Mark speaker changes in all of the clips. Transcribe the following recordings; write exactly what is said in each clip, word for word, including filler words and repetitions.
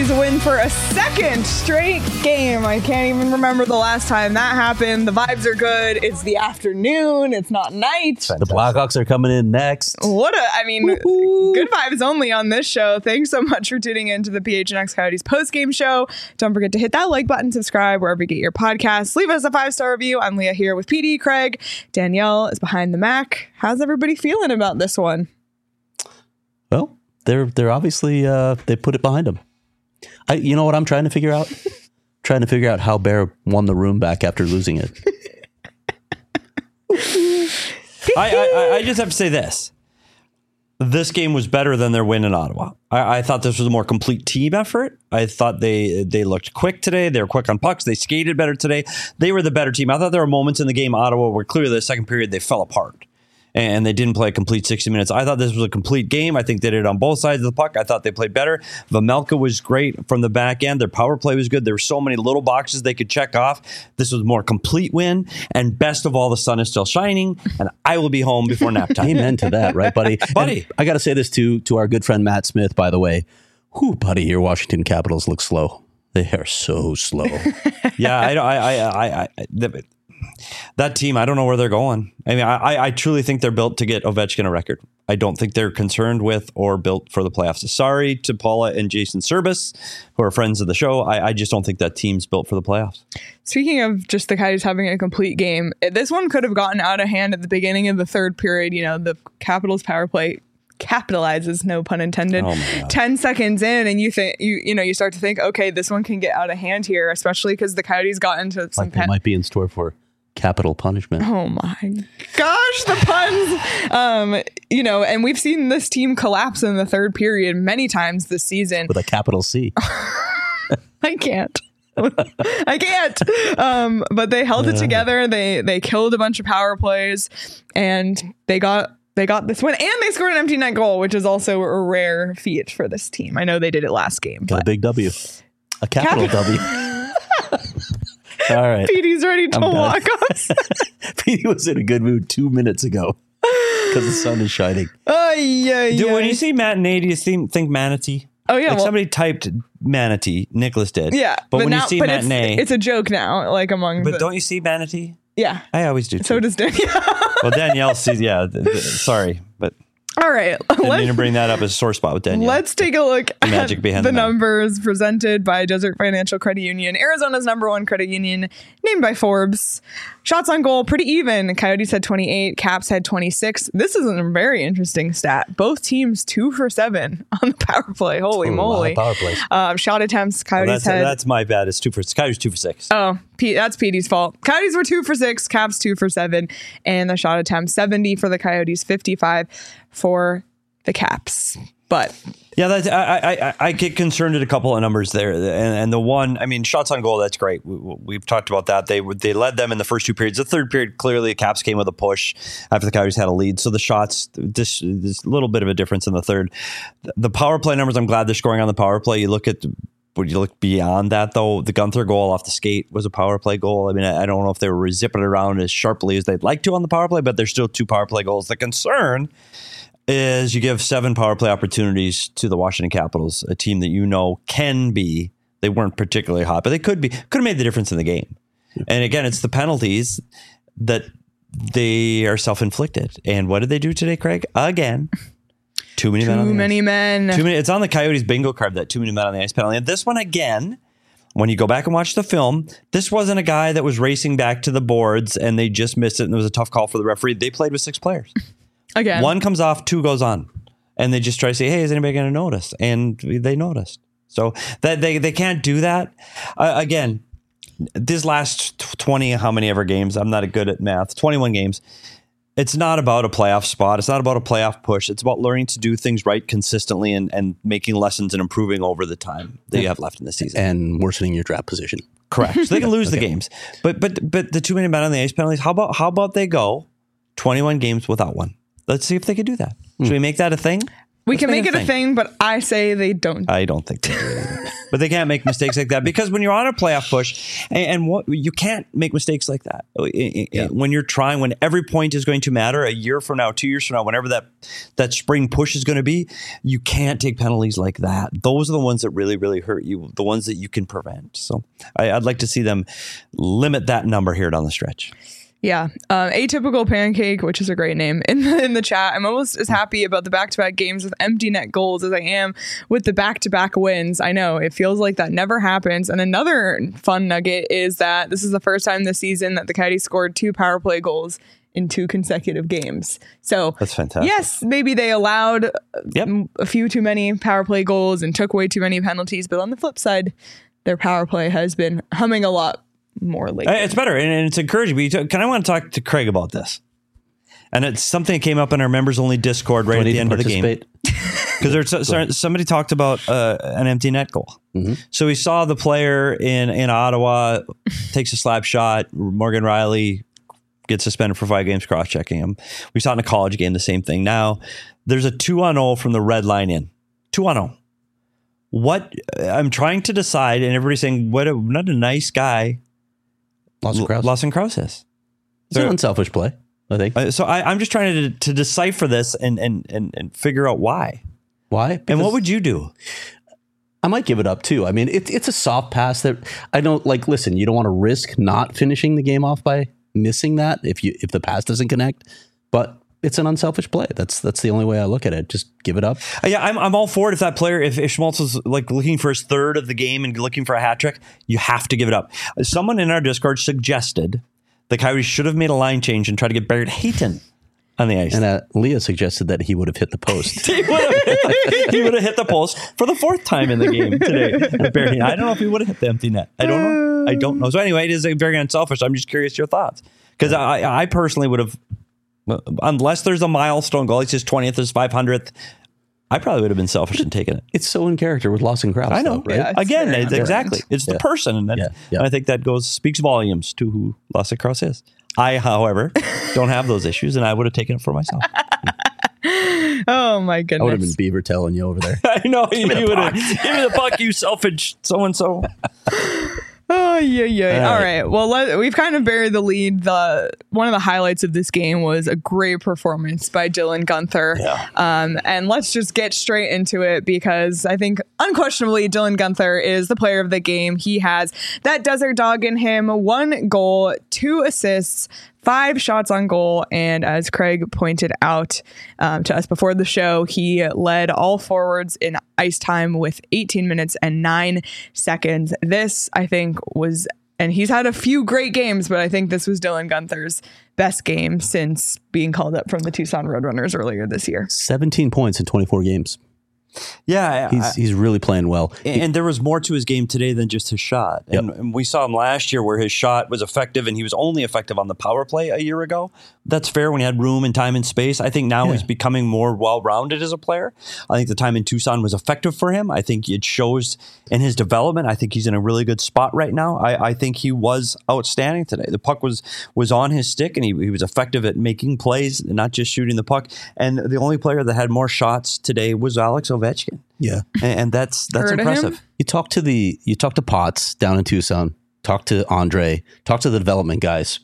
Speaker 1: Coyotes win for a second straight game. I can't even remember the last time that happened. The vibes are good. It's the afternoon. It's not night.
Speaker 2: The Blackhawks are coming in next.
Speaker 1: What a, I mean,
Speaker 2: Woo-hoo.
Speaker 1: Good vibes only on this show. Thanks so much for tuning in to the P H N X Coyotes postgame show. Don't forget to hit that like button, subscribe wherever you get your podcasts. Leave us a five-star review. I'm Leah here with P D, Craig. Danielle is behind the Mac. How's everybody feeling about this one?
Speaker 2: Well, they're they're obviously uh, they put it behind them. I, you know what I'm trying to figure out? trying to figure out how Bear won the room back after losing it.
Speaker 3: I, I I just have to say this. This game was better than their win in Ottawa. I, I thought this was a more complete team effort. I thought they they looked quick today. They were quick on pucks. They skated better today. They were the better team. I thought there were moments in the game Ottawa where clearly the second period they fell apart. And they didn't play a complete sixty minutes. I thought this was a complete game. I think they did it on both sides of the puck. I thought they played better. Vejmelka was great from the back end. Their power play was good. There were so many little boxes they could check off. This was a more complete win. And best of all, the sun is still shining. And I will be home before nap time.
Speaker 2: Amen to that, right, buddy?
Speaker 3: Buddy.
Speaker 2: And I got to say this to, to our good friend Matt Smith, by the way. Whew, buddy, your Washington Capitals look slow. They are so slow.
Speaker 3: yeah, I, I, I, I, I the, that team, I don't know where they're going. I mean, I, I truly think they're built to get Ovechkin a record. I don't think they're concerned with or built for the playoffs. Sorry to Paula and Jason Serbus, who are friends of the show. I, I just don't think that team's built for the playoffs.
Speaker 1: Speaking of just the Coyotes having a complete game, this one could have gotten out of hand at the beginning of the third period. You know, the Capitals power play capitalizes, no pun intended,
Speaker 3: oh my God.
Speaker 1: ten seconds in, and you think you you know you start to think, okay, this one can get out of hand here, especially because the Coyotes got into some
Speaker 2: like they pen- might be in store for capital punishment.
Speaker 1: Oh my gosh, the puns. Um, you know, and we've seen this team collapse in the third period many times this season.
Speaker 2: With a capital C.
Speaker 1: I can't. I can't. Um, but they held it together. They they killed a bunch of power plays, and they got they got this win, and they scored an empty net goal, which is also a rare feat for this team. I know they did it last game.
Speaker 2: Got a big W. A capital Cap- W. All right.
Speaker 1: Petey's ready to walk us.
Speaker 2: Petey was in a good mood two minutes ago because the sun is shining.
Speaker 1: Oh, yeah,
Speaker 3: Dude,
Speaker 1: yeah.
Speaker 3: when you say matinee, do you think, think manatee?
Speaker 1: Oh, yeah.
Speaker 3: Like
Speaker 1: well,
Speaker 3: somebody typed manatee. Nicholas did.
Speaker 1: Yeah.
Speaker 3: But, but when
Speaker 1: now,
Speaker 3: you see
Speaker 1: but
Speaker 3: matinee.
Speaker 1: It's, it's a joke now, like among
Speaker 3: But
Speaker 1: the,
Speaker 3: don't you see manatee?
Speaker 1: Yeah.
Speaker 3: I always do too.
Speaker 1: So does Danielle.
Speaker 3: Well, Danielle sees, yeah. Th- th- sorry, but.
Speaker 1: All right.
Speaker 3: Didn't mean to bring that up as a sore spot with Danielle.
Speaker 1: Let's take a look
Speaker 3: the magic
Speaker 1: at
Speaker 3: behind
Speaker 1: the,
Speaker 3: the
Speaker 1: numbers presented by Desert Financial Credit Union, Arizona's number one credit union, named by Forbes. Shots on goal, pretty even. Coyotes had twenty-eight, Caps had twenty-six. This is a very interesting stat. Both teams two for seven on the power play. Holy
Speaker 2: Ooh,
Speaker 1: moly.
Speaker 2: power plays.
Speaker 1: Um, shot attempts, Coyotes
Speaker 3: well, that's,
Speaker 1: had...
Speaker 3: that's my bad. It's two for Coyotes two for six.
Speaker 1: Oh, P- that's Petey's fault. Coyotes were two for six, Caps two for seven, and the shot attempts seventy for the Coyotes, fifty-five for the Caps. But
Speaker 3: yeah, that's, I, I I get concerned at a couple of numbers there, and, and the one, I mean, shots on goal, that's great. We, we've talked about that. They they led them in the first two periods. The third period, clearly, the Caps came with a push after the Coyotes had a lead. So the shots, this this little bit of a difference in the third. The power play numbers, I'm glad they're scoring on the power play. You look at. Would you look beyond that, though? The Gunther goal off the skate was a power play goal. I mean, I, I don't know if they were zipping it around as sharply as they'd like to on the power play, but there's still two power play goals. The concern is you give seven power play opportunities to the Washington Capitals, a team that you know can be. They weren't particularly hot, but they could be. Could have made the difference in the game. Yeah. And again, it's the penalties that they are self-inflicted. And what did they do today, Craig? Again. Too many
Speaker 1: too
Speaker 3: men. On the
Speaker 1: many
Speaker 3: ice.
Speaker 1: men.
Speaker 3: Too many. It's on the Coyotes bingo card, that too many men on the ice penalty. And this one again, when you go back and watch the film, this wasn't a guy that was racing back to the boards and they just missed it and there was a tough call for the referee. They played with six players.
Speaker 1: Again.
Speaker 3: One comes off, two goes on. And they just try to say, hey, is anybody going to notice? And they noticed. So that they, they can't do that. Uh, again, these last twenty, how many ever games, I'm not good at math, twenty-one games. It's not about a playoff spot. It's not about a playoff push. It's about learning to do things right consistently and, and making lessons and improving over the time that you have left in the season.
Speaker 2: And worsening your draft position.
Speaker 3: Correct. So they can lose
Speaker 2: okay.
Speaker 3: the games. But but but the too many men on the ice penalties, how about how about they go twenty-one games without one? Let's see if they could do that. Should hmm. we make that a thing?
Speaker 1: We
Speaker 3: Let's
Speaker 1: can make it a
Speaker 3: thing.
Speaker 1: thing, but I say they don't.
Speaker 3: I don't think they do either. But they can't make mistakes like that because when you're on a playoff push, and, and what you can't make mistakes like that yeah. when you're trying, when every point is going to matter a year from now, two years from now, whenever that that spring push is going to be, you can't take penalties like that. Those are the ones that really, really hurt you, the ones that you can prevent. So I, I'd like to see them limit that number here down the stretch.
Speaker 1: Yeah. Um, Atypical Pancake, which is a great name, in the, in the chat. I'm almost as happy about the back-to-back games with empty net goals as I am with the back-to-back wins. I know it feels like that never happens. And another fun nugget is that this is the first time this season that the Coyotes scored two power play goals in two consecutive games. So
Speaker 3: that's fantastic.
Speaker 1: Yes, maybe they allowed
Speaker 3: yep.
Speaker 1: a few too many power play goals and took away too many penalties. But on the flip side, their power play has been humming a lot more lately.
Speaker 3: It's better and it's encouraging. But you t- can I want to talk to Craig about this? And it's something that came up in our members only Discord right at the end of the game. Because there's so, somebody talked about uh, an empty net goal. Mm-hmm. So we saw the player in, in Ottawa takes a slap shot. Morgan Riley gets suspended for five games, cross-checking him. We saw in a college game the same thing. Now there's a two on oh from the red line in. two on oh. What I'm trying to decide, and everybody's saying, what a, not a nice guy
Speaker 2: Lawson Crouse.
Speaker 3: Lawson Crouse is.
Speaker 2: It's an unselfish play, I think.
Speaker 3: Uh, so I, I'm just trying to to decipher this and and and, and figure out why.
Speaker 2: Why? Because
Speaker 3: and what would you do?
Speaker 2: I might give it up too. I mean, it, it's a soft pass that I don't like. Listen, you don't want to risk not finishing the game off by missing that if you if the pass doesn't connect. But it's an unselfish play. That's that's the only way I look at it. Just give it up.
Speaker 3: Uh, yeah, I'm I'm all for it. If that player, if, if Schmaltz was like looking for his third of the game and looking for a hat trick, you have to give it up. Someone in our Discord suggested the Coyotes should have made a line change and tried to get Barrett Hayton on the ice.
Speaker 2: And uh, Leah suggested that he would have hit the post.
Speaker 3: he would have he would have hit the post for the fourth time in the game today. Barrett, I don't know if he would have hit the empty net. I don't know. I don't know. So anyway, it is a very unselfish. I'm just curious your thoughts because I I personally would have. Unless there's a milestone goal, it's his twentieth, his five hundredth. I probably would have been selfish in taking it.
Speaker 2: It's so in character with Lawson Crouse.
Speaker 3: I know,
Speaker 2: though, right?
Speaker 3: Yeah, Again, it's exactly. It's
Speaker 2: yeah.
Speaker 3: the person, and, that,
Speaker 2: yeah. Yeah.
Speaker 3: and I think that goes speaks volumes to who Lawson Crouse is. I, however, don't have those issues, and I would have taken it for myself.
Speaker 1: Oh my goodness!
Speaker 2: I would have been Beaver telling you over there.
Speaker 3: I know you would have. Give me the puck, you selfish so and so.
Speaker 1: Oh yeah, yeah.
Speaker 2: All
Speaker 1: All
Speaker 2: right.
Speaker 1: right. Well, let, we've kind of buried the lead. The one of the highlights of this game was a great performance by Dylan Guenther.
Speaker 2: Yeah.
Speaker 1: Um, and let's just get straight into it because I think unquestionably Dylan Guenther is the player of the game. He has that desert dog in him. One goal, two assists, five shots on goal. And as Craig pointed out um, to us before the show, he led all forwards in ice time with eighteen minutes and nine seconds. This, I think, was, and he's had a few great games, but I think this was Dylan Guenther's best game since being called up from the Tucson Roadrunners earlier this year.
Speaker 2: seventeen points in twenty-four games.
Speaker 3: Yeah,
Speaker 2: he's
Speaker 3: I,
Speaker 2: he's really playing well.
Speaker 3: And, and there was more to his game today than just his shot. And,
Speaker 2: yep.
Speaker 3: and we saw him last year where his shot was effective and he was only effective on the power play a year ago. That's fair when he had room and time and space. I think now yeah. he's becoming more well-rounded as a player. I think the time in Tucson was effective for him. I think it shows in his development. I think he's in a really good spot right now. I, I think he was outstanding today. The puck was was on his stick and he, he was effective at making plays, not just shooting the puck. And the only player that had more shots today was Alex Ovechkin.
Speaker 2: Yeah,
Speaker 3: and, and that's that's
Speaker 1: Heard
Speaker 3: impressive.
Speaker 2: You talk to the you talk to Potts down in Tucson. Talk to Andre. Talk to the development guys.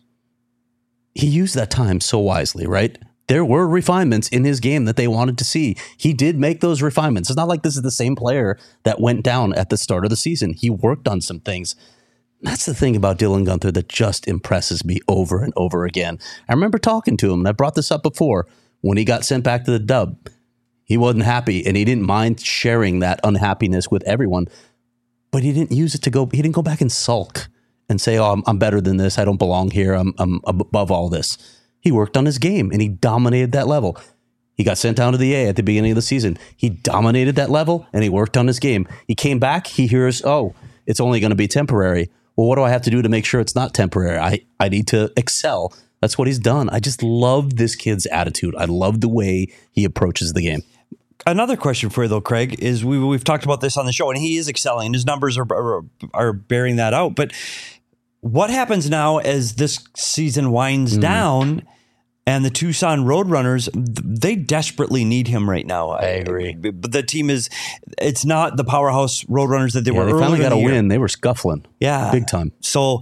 Speaker 2: He used that time so wisely, right? There were refinements in his game that they wanted to see. He did make those refinements. It's not like this is the same player that went down at the start of the season. He worked on some things. That's the thing about Dylan Guenther that just impresses me over and over again. I remember talking to him, and I brought this up before, when he got sent back to the Dub. He wasn't happy, and he didn't mind sharing that unhappiness with everyone, but he didn't use it to go, he didn't go back and sulk and say, oh, I'm, I'm better than this. I don't belong here. I'm, I'm above all this. He worked on his game, and he dominated that level. He got sent down to the A at the beginning of the season. He dominated that level, and he worked on his game. He came back. He hears, oh, it's only going to be temporary. Well, what do I have to do to make sure it's not temporary? I, I need to excel. That's what he's done. I just love this kid's attitude. I love the way he approaches the game.
Speaker 3: Another question for you, though, Craig, is we, we've talked about this on the show, and he is excelling, and his numbers are, are are bearing that out. But what happens now as this season winds mm. down And the Tucson Roadrunners, they desperately need him right now.
Speaker 2: I agree.
Speaker 3: But the team is, it's not the powerhouse Roadrunners that they
Speaker 2: yeah,
Speaker 3: were
Speaker 2: they
Speaker 3: earlier
Speaker 2: finally got
Speaker 3: in the
Speaker 2: a
Speaker 3: year.
Speaker 2: win. They were scuffling.
Speaker 3: Yeah.
Speaker 2: Big time.
Speaker 3: So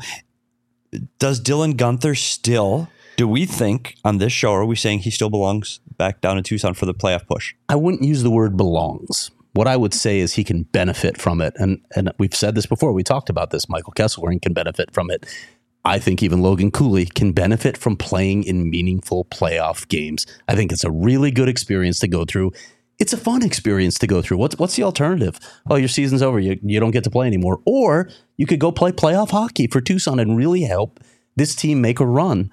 Speaker 3: does Dylan Gunther still, do we think on this show, are we saying he still belongs back down in Tucson for the playoff push?
Speaker 2: I wouldn't use the word belongs. What I would say is he can benefit from it. And and we've said this before. We talked about this. Michael Kesselring can benefit from it. I think even Logan Cooley can benefit from playing in meaningful playoff games. I think it's a really good experience to go through. It's a fun experience to go through. What's what's the alternative? Oh, your season's over. You, you don't get to play anymore. Or you could go play playoff hockey for Tucson and really help this team make a run.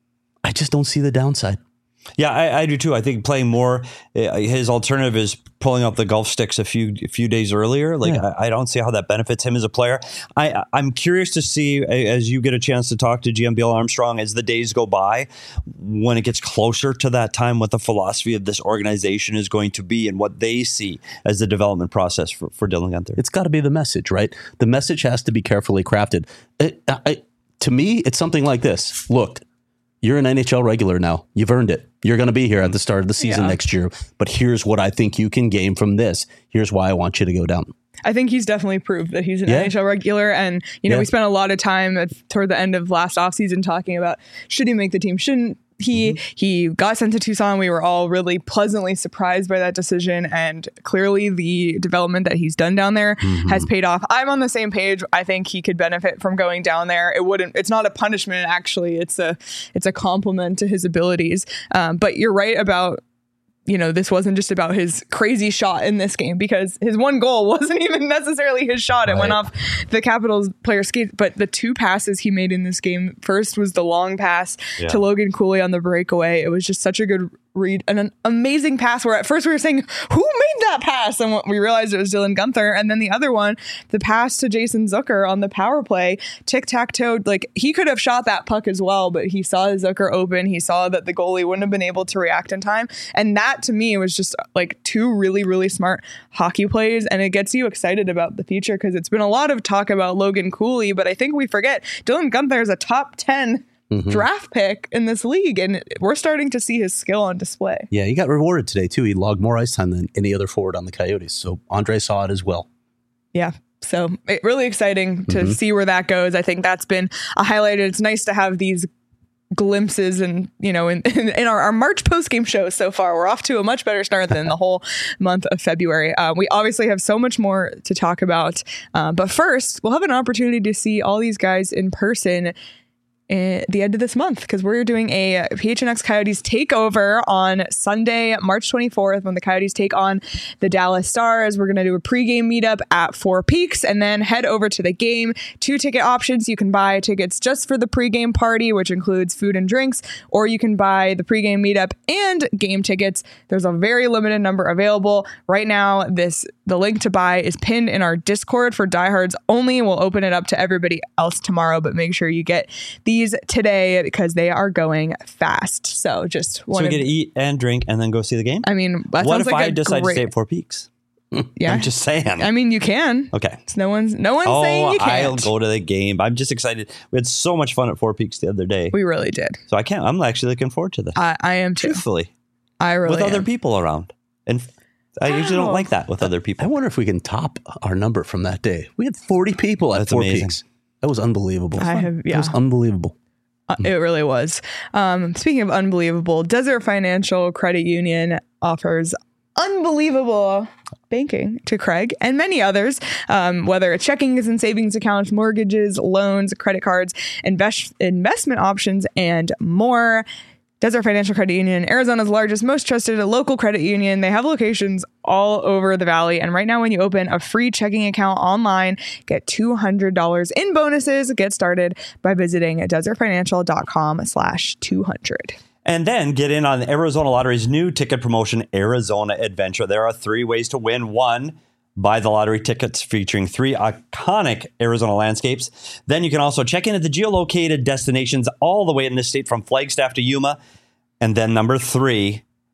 Speaker 2: I just don't see the downside.
Speaker 3: Yeah, I, I do too. I think playing more, uh, his alternative is pulling up the golf sticks a few a few days earlier. Like
Speaker 2: Yeah.
Speaker 3: I, I don't see how that benefits him as a player. I I'm curious to see, as you get a chance to talk to G M Bill Armstrong as the days go by, when it gets closer to that time, what the philosophy of this organization is going to be and what they see as the development process for, for Dylan Gunther.
Speaker 2: It's got to be the message, right? The message has to be carefully crafted. It, I, to me, it's something like this. Look, you're an N H L regular now. You've earned it. You're going to be here at the start of the season
Speaker 1: Yeah.
Speaker 2: next year. But here's what I think you can gain from this. Here's why I want you to go down.
Speaker 1: I think he's definitely proved that he's an
Speaker 2: Yeah.
Speaker 1: N H L regular. And, you know,
Speaker 2: Yeah.
Speaker 1: we spent a lot of time at, toward the end of last offseason talking about should he make the team, shouldn't he?
Speaker 2: Mm-hmm.
Speaker 1: He got sent to Tucson. We were all really pleasantly surprised by that decision. And clearly the development that he's done down there
Speaker 2: Mm-hmm.
Speaker 1: has paid off. I'm on the same page. I think he could benefit from going down there. It wouldn't, it's not a punishment, actually. It's a, it's a compliment to his abilities. Um, but you're right about, you know, this wasn't just about his crazy shot in this game, because his one goal wasn't even necessarily his shot. It went
Speaker 2: Right.
Speaker 1: off the Capitals player's skate. But the two passes he made in this game, first was the long pass
Speaker 3: Yeah.
Speaker 1: to Logan Cooley on the breakaway. It was just such a good read, an, an amazing pass where at first we were saying, who made that pass? And we realized it was Dylan Gunther. And then the other one, the pass to Jason Zucker on the power play, tic-tac-toe, like he could have shot that puck as well, but he saw Zucker open. He saw that the goalie wouldn't have been able to react in time. And that to me was just like two really, really smart hockey plays. And it gets you excited about the future, because it's been a lot of talk about Logan Cooley, but I think we forget Dylan Gunther is a top ten
Speaker 2: Mm-hmm.
Speaker 1: draft pick in this league, and we're starting to see his skill on display.
Speaker 2: Yeah, he got rewarded today, too. He logged more ice time than any other forward on the Coyotes. So Andre saw it as well.
Speaker 1: Yeah. So it, really exciting to
Speaker 2: Mm-hmm.
Speaker 1: see where that goes. I think that's been a highlight. It's nice to have these glimpses and, you know, in, in, in our, our March post-game show so far. We're off to a much better start than the whole month of February. Uh, we obviously have so much more to talk about. Uh, but first, we'll have an opportunity to see all these guys in person at the end of this month, because we're doing a P H N X Coyotes takeover on Sunday, March twenty-fourth, when the Coyotes take on the Dallas Stars. We're going to do a pregame meetup at Four Peaks and then head over to the game. Two ticket options. You can buy tickets just for the pregame party, which includes food and drinks, or you can buy the pregame meetup and game tickets. There's a very limited number available right now. This the link to buy is pinned in our Discord for diehards only. We'll open it up to everybody else tomorrow, but make sure you get these today because they are going fast. So just
Speaker 3: So
Speaker 1: want
Speaker 3: we get to eat and drink and then go see the game?
Speaker 1: I mean, that
Speaker 3: What
Speaker 1: sounds
Speaker 3: if
Speaker 1: like
Speaker 3: I
Speaker 1: a
Speaker 3: decide
Speaker 1: great,
Speaker 3: to stay at Four Peaks?
Speaker 1: Yeah,
Speaker 3: I'm just saying.
Speaker 1: I mean, you can.
Speaker 3: Okay.
Speaker 1: It's no one's no one's saying
Speaker 3: Oh,
Speaker 1: you
Speaker 3: I'll
Speaker 1: can't.
Speaker 3: go to the game. I'm just excited. We had so much fun at Four Peaks the other day.
Speaker 1: We really did.
Speaker 3: So I can't. I'm actually looking forward to this.
Speaker 1: I, I am too.
Speaker 3: Truthfully.
Speaker 1: I really
Speaker 3: with other
Speaker 1: am.
Speaker 3: people around. And I usually don't
Speaker 1: Wow.
Speaker 3: like that with other
Speaker 2: I
Speaker 3: people.
Speaker 2: wonder if we can top our number from that day. We had forty people at
Speaker 3: That's
Speaker 2: Four
Speaker 3: amazing.
Speaker 2: Peaks. That was unbelievable.
Speaker 1: I have-
Speaker 2: It
Speaker 1: yeah.
Speaker 2: was unbelievable.
Speaker 1: Uh, it really was. Um, speaking of unbelievable, Desert Financial Credit Union offers unbelievable banking to Craig and many others, um, whether it's checkings and savings accounts, mortgages, loans, credit cards, invest- investment options, and more. Desert Financial Credit Union, Arizona's largest, most trusted local credit union. They have locations all over the valley. And right now, when you open a free checking account online, get two hundred dollars in bonuses. Get started by visiting desertfinancial.com slash 200.
Speaker 3: And then get in on Arizona Lottery's new ticket promotion, Arizona Adventure. There are three ways to win. One, buy the lottery tickets featuring three iconic Arizona landscapes. Then you can also check in at the geolocated destinations all the way in this state from Flagstaff to Yuma. And then number three,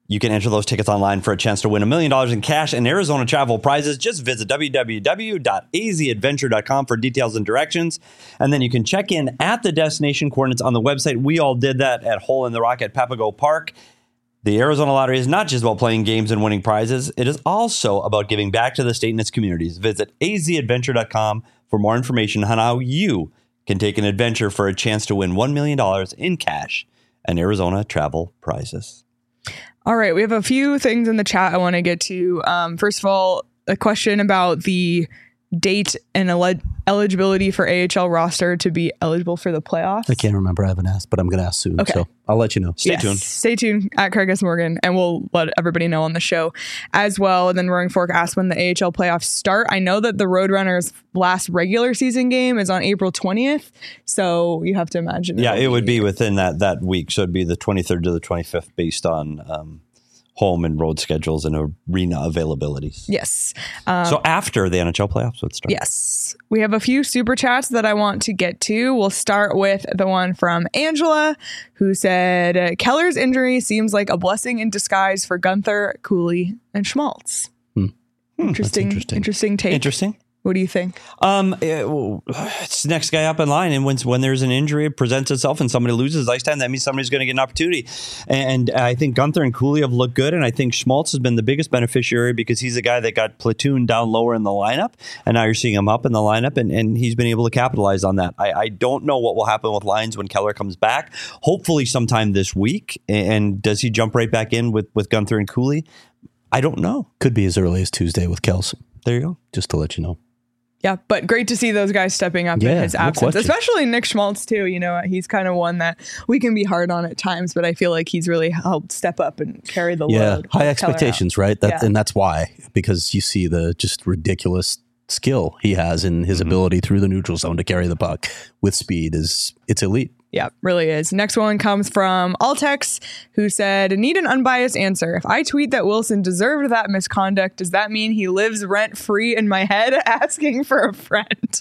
Speaker 3: You can enter those tickets online for a chance to win a million dollars in cash and Arizona travel prizes. Just visit w w w dot a z adventure dot com for details and directions. And then you can check in at the destination coordinates on the website. We all did that at Hole in the Rock at Papago Park. The Arizona Lottery is not just about playing games and winning prizes. It is also about giving back to the state and its communities. Visit a z adventure dot com for more information on how you can take an adventure for a chance to win one million dollars in cash and Arizona travel prizes.
Speaker 1: All right, we have a few things in the chat I want to get to. Um, first of all, a question about the date and ele- eligibility for A H L roster to be eligible for the playoffs.
Speaker 2: I can't remember. I haven't asked, but I'm going to ask soon.
Speaker 1: Okay.
Speaker 2: So I'll let you know.
Speaker 3: Stay
Speaker 1: yes,
Speaker 3: tuned.
Speaker 1: Stay tuned at Craig S. Morgan, and we'll let everybody know on the show as well. And then Roaring Fork asked when the A H L playoffs start. I know that the Roadrunners' last regular season game is on April twentieth, so you have to imagine.
Speaker 3: Yeah,
Speaker 1: it'll
Speaker 3: it would be within that, that week. So it'd be the twenty-third to the twenty-fifth based on um, home and road schedules and arena availabilities.
Speaker 1: Yes. Um,
Speaker 3: So after the N H L playoffs would start.
Speaker 1: Yes. We have a few super chats that I want to get to. We'll start with the one from Angela, who said, Keller's injury seems like a blessing in disguise for Gunther, Cooley, and Schmaltz.
Speaker 2: Hmm.
Speaker 1: Interesting,
Speaker 2: interesting.
Speaker 1: interesting take.
Speaker 3: Interesting.
Speaker 1: What do you think?
Speaker 3: Um, it- well, it's the next guy up in line, and when when there's an injury, it presents itself, and somebody loses ice time, that means somebody's going to get an opportunity. And I think Gunther and Cooley have looked good, and I think Schmaltz has been the biggest beneficiary because he's the guy that got platooned down lower in the lineup, and now you're seeing him up in the lineup, and, and he's been able to capitalize on that. I, I don't know what will happen with lines when Keller comes back. Hopefully, sometime this week. And does he jump right back in with with Gunther and Cooley? I don't know.
Speaker 2: Could be as early as Tuesday with Kels.
Speaker 3: There you go.
Speaker 2: Just to let you know.
Speaker 1: Yeah, but great to see those guys stepping up in
Speaker 2: Yeah,
Speaker 1: his
Speaker 2: no
Speaker 1: absence,
Speaker 2: question.
Speaker 1: especially Nick Schmaltz, too. You know, he's kind of one that we can be hard on at times, but I feel like he's really helped step up and carry the
Speaker 2: Yeah,
Speaker 1: load.
Speaker 2: high
Speaker 1: Keller
Speaker 2: expectations,
Speaker 1: out.
Speaker 2: right? That,
Speaker 1: Yeah.
Speaker 2: And that's why, because you see the just ridiculous skill he has in his
Speaker 3: Mm-hmm.
Speaker 2: ability through the neutral zone to carry the puck with speed is it's elite.
Speaker 1: Yeah, really is. Next one comes from Altex, who said, need an unbiased answer. If I tweet that Wilson deserved that misconduct, does that mean he lives rent free in my head? Asking for a friend.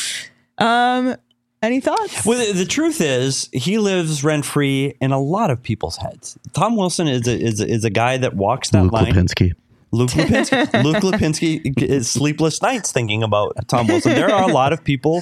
Speaker 1: Um, any thoughts?
Speaker 3: Well, the, the truth is, he lives rent free in a lot of people's heads. Tom Wilson is a, is a, is a guy that walks that
Speaker 2: Luke
Speaker 3: line.
Speaker 2: Lipinski.
Speaker 3: Luke Lipinski. Luke Lipinski is sleepless nights thinking about Tom Wilson. There are a lot of people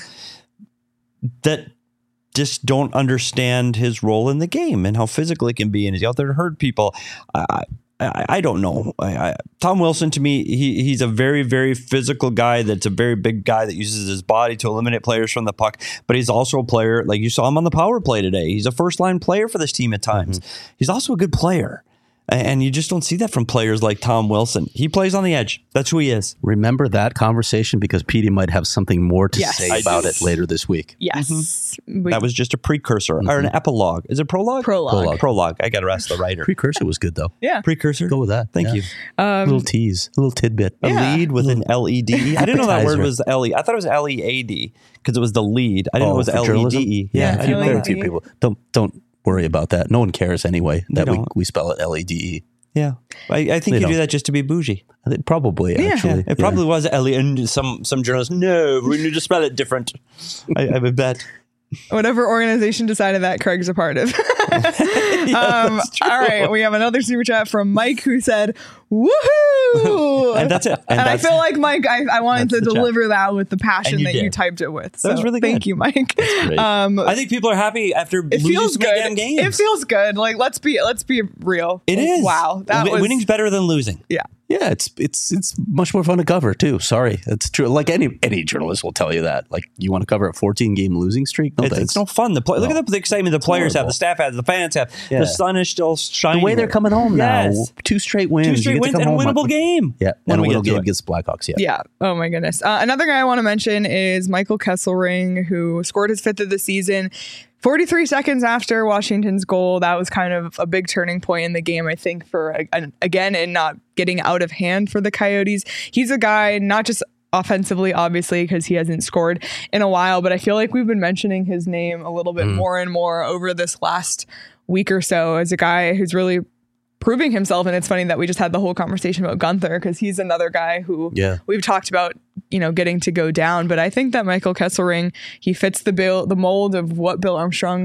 Speaker 3: that just don't understand his role in the game and how physical it can be, and he's out there to hurt people. I, I, I don't know. I, I, Tom Wilson, to me, he he's a very, very physical guy. That's a very big guy that uses his body to eliminate players from the puck. But he's also a player, like you saw him on the power play today. He's a first line player for this team at times. Mm-hmm. He's also a good player. And you just don't see that from players like Tom Wilson. He plays on the edge. That's who he is.
Speaker 2: Remember that conversation because Petey might have something more to
Speaker 1: Yes.
Speaker 2: say
Speaker 1: I
Speaker 2: about
Speaker 3: do.
Speaker 2: it later this week.
Speaker 1: Yes. We-
Speaker 3: That was just a precursor
Speaker 2: Mm-hmm.
Speaker 3: or an epilogue. Is it prologue?
Speaker 1: Prologue.
Speaker 2: Prologue.
Speaker 3: Prologue. I got to ask the writer.
Speaker 2: Precursor was good though.
Speaker 1: yeah.
Speaker 3: Precursor.
Speaker 2: Go with that.
Speaker 3: Thank
Speaker 2: Yeah.
Speaker 3: you.
Speaker 2: A little tease, a little tidbit.
Speaker 3: A
Speaker 1: Yeah.
Speaker 3: lead with an L E D E. I didn't know that word
Speaker 2: Appetizer.
Speaker 3: was L E. I thought it was L E A D because it was the lead. I didn't know it was
Speaker 2: for
Speaker 3: L E
Speaker 2: journalism?
Speaker 3: D E.
Speaker 2: Yeah,
Speaker 3: I
Speaker 2: a few,
Speaker 3: didn't know
Speaker 2: there are a
Speaker 3: that.
Speaker 2: few people. Don't don't worry about that. No one cares anyway that we,
Speaker 3: don't.
Speaker 2: we spell it L E D E.
Speaker 3: Yeah. I, I think
Speaker 2: They
Speaker 3: you do
Speaker 2: don't.
Speaker 3: that just to be bougie.
Speaker 2: I think probably
Speaker 1: Yeah.
Speaker 2: actually.
Speaker 3: It probably was L E. And some, some journalists, no, we need to spell it different. I, I would bet.
Speaker 1: Whatever organization decided that, Craig's a part of. um, all right, we have another super chat from Mike who said, "Woohoo!"
Speaker 3: And that's it.
Speaker 1: And,
Speaker 3: And
Speaker 1: I
Speaker 3: that's-
Speaker 1: feel like Mike, I, I wanted to
Speaker 3: that's the chat.
Speaker 1: deliver that with the passion
Speaker 3: And you
Speaker 1: that you
Speaker 3: did.
Speaker 1: typed it with.
Speaker 3: That was
Speaker 1: So
Speaker 3: really
Speaker 1: Thank
Speaker 3: good.
Speaker 1: you, Mike.
Speaker 2: great.
Speaker 1: Um,
Speaker 3: I think people are happy after
Speaker 1: it
Speaker 3: losing
Speaker 1: feels
Speaker 3: so many
Speaker 1: good.
Speaker 3: damn games.
Speaker 1: It feels good. Like let's be let's be real.
Speaker 3: It is.
Speaker 1: Wow, that
Speaker 3: Win-
Speaker 1: was
Speaker 3: winning's better than losing.
Speaker 1: yeah.
Speaker 2: Yeah, it's it's it's much more fun to cover too. Sorry, it's true. Like any any journalist will tell you that. Like you want to cover a fourteen game losing streak. No,
Speaker 3: It's,
Speaker 2: thanks.
Speaker 3: it's no fun. The play, look
Speaker 2: No.
Speaker 3: at the excitement the players have,
Speaker 2: horrible.
Speaker 3: the staff has, the fans have.
Speaker 2: Yeah.
Speaker 3: The sun is still shining.
Speaker 2: the way they're coming home now.
Speaker 3: Yes.
Speaker 2: Two straight wins.
Speaker 3: Two
Speaker 2: You
Speaker 3: straight
Speaker 2: get to
Speaker 3: wins
Speaker 2: come
Speaker 3: and a
Speaker 2: home on-
Speaker 3: winnable game.
Speaker 2: Yeah,
Speaker 3: When
Speaker 2: and a
Speaker 3: we get
Speaker 2: winnable
Speaker 3: to
Speaker 2: game
Speaker 3: it.
Speaker 2: against the Blackhawks. Yeah.
Speaker 1: Yeah. Oh my goodness. Uh, another guy I want to mention is Michael Kesselring, who scored his fifth of the season. forty-three seconds after Washington's goal, that was kind of a big turning point in the game, I think, for, uh, again, in not getting out of hand for the Coyotes. He's a guy, not just offensively, obviously, because he hasn't scored in a while, but I feel like we've been mentioning his name a little bit more and more over this last week or so as a guy who's really proving himself. And it's funny that we just had the whole conversation about Gunther because he's another guy who
Speaker 2: Yeah.
Speaker 1: we've talked about, you know, getting to go down. But I think that Michael Kesselring, he fits the bill, the mold of what Bill Armstrong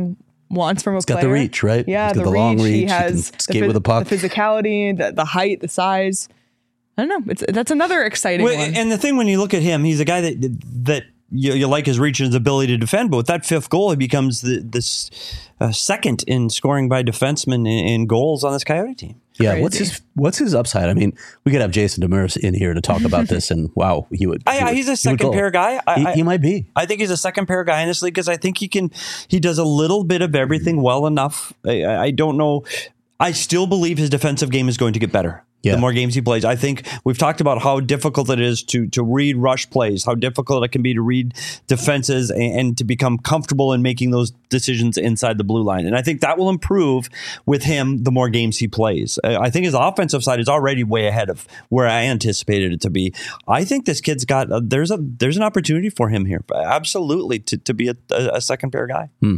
Speaker 1: wants from a
Speaker 2: He's
Speaker 1: player.
Speaker 2: got the reach, right?
Speaker 1: Yeah,
Speaker 2: He's got
Speaker 1: the,
Speaker 2: the long
Speaker 1: reach.
Speaker 2: reach.
Speaker 1: He
Speaker 2: He
Speaker 1: has
Speaker 2: can skate with the puck.
Speaker 1: the physicality, the, the height, the size. I don't know. It's that's another exciting
Speaker 3: Well,
Speaker 1: one.
Speaker 3: and the thing when you look at him, he's a guy that that you, you like his reach and his ability to defend. But with that fifth goal, he becomes the, this uh, second in scoring by defensemen in, in goals on this Coyote team.
Speaker 2: Yeah,
Speaker 1: Crazy.
Speaker 2: what's his what's his upside? I mean, we could have Jason Demers in here to talk about this, and wow, he would.
Speaker 3: I,
Speaker 2: he would
Speaker 3: he's a
Speaker 2: he would
Speaker 3: second
Speaker 2: go.
Speaker 3: pair guy. I,
Speaker 2: He,
Speaker 3: I,
Speaker 2: he might be.
Speaker 3: I think he's a second pair guy in this league because I think he can. He does a little bit of everything well enough. I, I don't know. I still believe his defensive game is going to get better.
Speaker 2: Yeah.
Speaker 3: The more games he plays, I think we've talked about how difficult it is to to read rush plays, how difficult it can be to read defenses and, and to become comfortable in making those decisions inside the blue line. And I think that will improve with him the more games he plays. I think his offensive side is already way ahead of where I anticipated it to be. I think this kid's got a, there's a there's an opportunity for him here, absolutely, to to be a, a second pair guy.
Speaker 2: Hmm.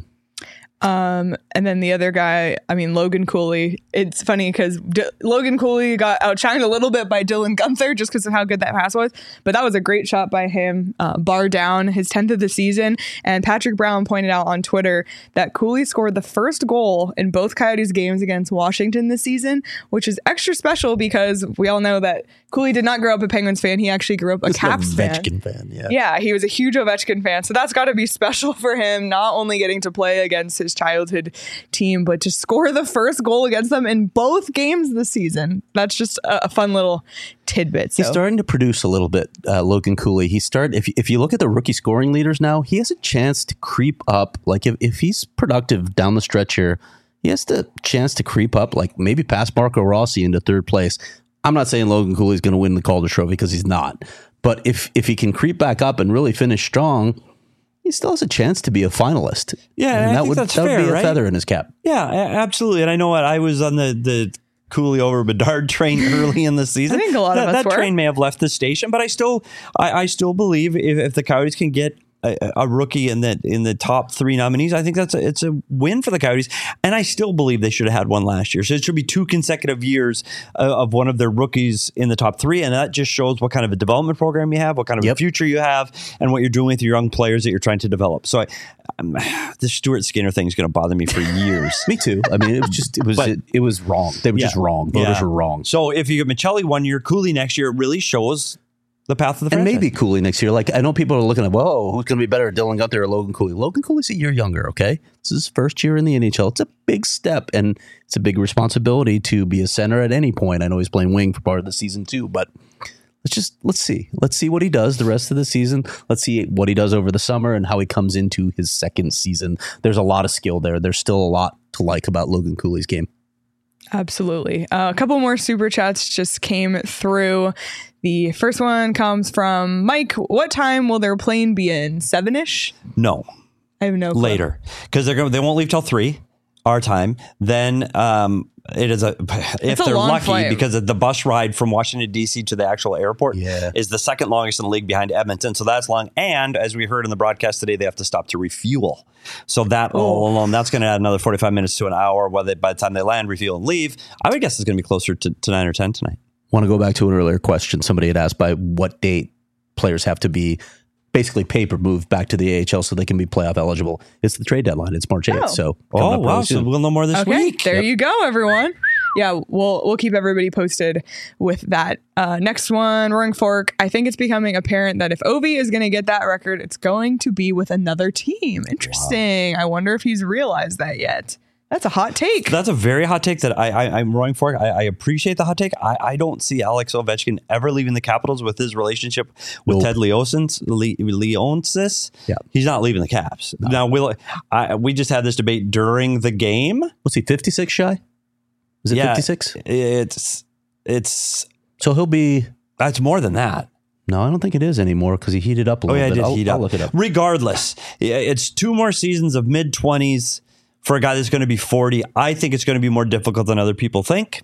Speaker 1: Um, and then the other guy, I mean, Logan Cooley. It's funny because D- Logan Cooley got outshined a little bit by Dylan Gunther just because of how good that pass was. But that was a great shot by him, uh, bar down, his tenth of the season. And Patrick Brown pointed out on Twitter that Cooley scored the first goal in both Coyotes games against Washington this season, which is extra special because we all know that Cooley did not grow up a Penguins fan. He actually grew up a
Speaker 2: This is
Speaker 1: Caps
Speaker 2: an
Speaker 1: fan.
Speaker 2: Ovechkin fan. Yeah.
Speaker 1: Yeah, he was a huge Ovechkin fan. So that's got to be special for him, not only getting to play against his childhood team, but to score the first goal against them in both games this season. That's just a, a fun little tidbit. So.
Speaker 2: He's starting to produce a little bit, uh, Logan Cooley. He started. If if you look at the rookie scoring leaders now, he has a chance to creep up. Like if, if he's productive down the stretch here, he has the chance to creep up, like maybe past Marco Rossi into third place. I'm not saying Logan Cooley's going to win the Calder Trophy because he's not. But if if he can creep back up and really finish strong, he still has a chance to be a finalist.
Speaker 3: Yeah,
Speaker 2: and
Speaker 3: I
Speaker 2: that
Speaker 3: think
Speaker 2: would
Speaker 3: that's
Speaker 2: that would
Speaker 3: fair,
Speaker 2: be a
Speaker 3: right?
Speaker 2: feather in his cap.
Speaker 3: Yeah, a- absolutely. And I know what I was on the the Cooley over Bedard train early in the season.
Speaker 1: I think a lot
Speaker 3: that,
Speaker 1: of us
Speaker 3: that
Speaker 1: were.
Speaker 3: train may have left the station, but I still I, I still believe if, if the Coyotes can get a, a rookie in that in the top three nominees, I think that's a, it's a win for the Coyotes. And I still believe they should have had one last year. So it should be two consecutive years uh, of one of their rookies in the top three. And that just shows what kind of a development program you have, what kind of
Speaker 2: Yep.
Speaker 3: a future you have, and what you're doing with your young players that you're trying to develop. So I, um, the Stuart Skinner thing is going to bother me for years.
Speaker 2: Me too. I mean, it was just it was
Speaker 3: But-
Speaker 2: it, it was wrong. They were
Speaker 3: Yeah.
Speaker 2: just wrong. Voters
Speaker 3: Yeah.
Speaker 2: were wrong.
Speaker 3: So if you get Michelli one year, Cooley next year, it really shows the path of the
Speaker 2: And
Speaker 3: franchise.
Speaker 2: maybe Cooley next year. Like I know people are looking at, whoa, who's going to be better, Dylan Gunther or Logan Cooley? Logan Cooley's a year younger. Okay, this is his first year in the N H L. It's a big step, and it's a big responsibility to be a center at any point. I know he's playing wing for part of the season too, but let's just let's see, let's see what he does the rest of the season. Let's see what he does over the summer and how he comes into his second season. There's a lot of skill there. There's still a lot to like about Logan Cooley's game.
Speaker 1: Absolutely. Uh, a couple more super chats just came through. The first one comes from Mike. What time will their plane be in? Seven-ish?
Speaker 3: no
Speaker 1: I have no clue.
Speaker 3: later because they're going they won't leave till three our time. Then um, it is a if
Speaker 1: a
Speaker 3: they're
Speaker 1: long
Speaker 3: lucky
Speaker 1: flight.
Speaker 3: because the bus ride from Washington D C to the actual airport
Speaker 2: Yeah.
Speaker 3: is the second longest in the league behind Edmonton. So that's long. And as we heard in the broadcast today, they have to stop to refuel. So that all alone, that's going to add another forty-five minutes to an hour. Whether by the time they land, refuel, and leave, I would guess it's going to be closer to, to nine or ten tonight.
Speaker 2: Want to go back to an earlier question somebody had asked by what date players have to be basically paper moved back to the A H L so they can be playoff eligible. It's the trade deadline. It's March eighth.
Speaker 1: Oh.
Speaker 2: So coming
Speaker 3: Oh
Speaker 2: up
Speaker 3: wow!
Speaker 2: really
Speaker 3: So
Speaker 2: soon.
Speaker 3: we'll know more this
Speaker 1: Okay,
Speaker 3: week.
Speaker 1: there you go, everyone. Yeah, we'll we'll keep everybody posted with that. Uh, next one, Roaring Fork. I think it's becoming apparent that if Ovi is going to get that record, it's going to be with another team. Interesting. I wonder if he's realized that yet. That's a hot take.
Speaker 3: That's a very hot take that I, I, I'm roaring for. I, I appreciate the hot take. I, I don't see Alex Ovechkin ever leaving the Capitals with his relationship with
Speaker 2: Nope.
Speaker 3: Ted Leonsis. Le, Leonsis.
Speaker 2: Yeah.
Speaker 3: He's not leaving the Caps. Now, will I, we just had this debate during the game.
Speaker 2: What's he, fifty-six shy? Is it
Speaker 3: Yeah,
Speaker 2: fifty-six?
Speaker 3: It's, it's,
Speaker 2: So he'll be,
Speaker 3: that's more than that.
Speaker 2: no, I don't think it is anymore because he heated up a
Speaker 3: Oh,
Speaker 2: little
Speaker 3: yeah, I
Speaker 2: bit.
Speaker 3: did
Speaker 2: I'll,
Speaker 3: heat
Speaker 2: I'll
Speaker 3: up.
Speaker 2: look it up.
Speaker 3: Regardless, yeah, it's two more seasons of mid twenties for a guy that's going to be forty. I think it's going to be more difficult than other people think.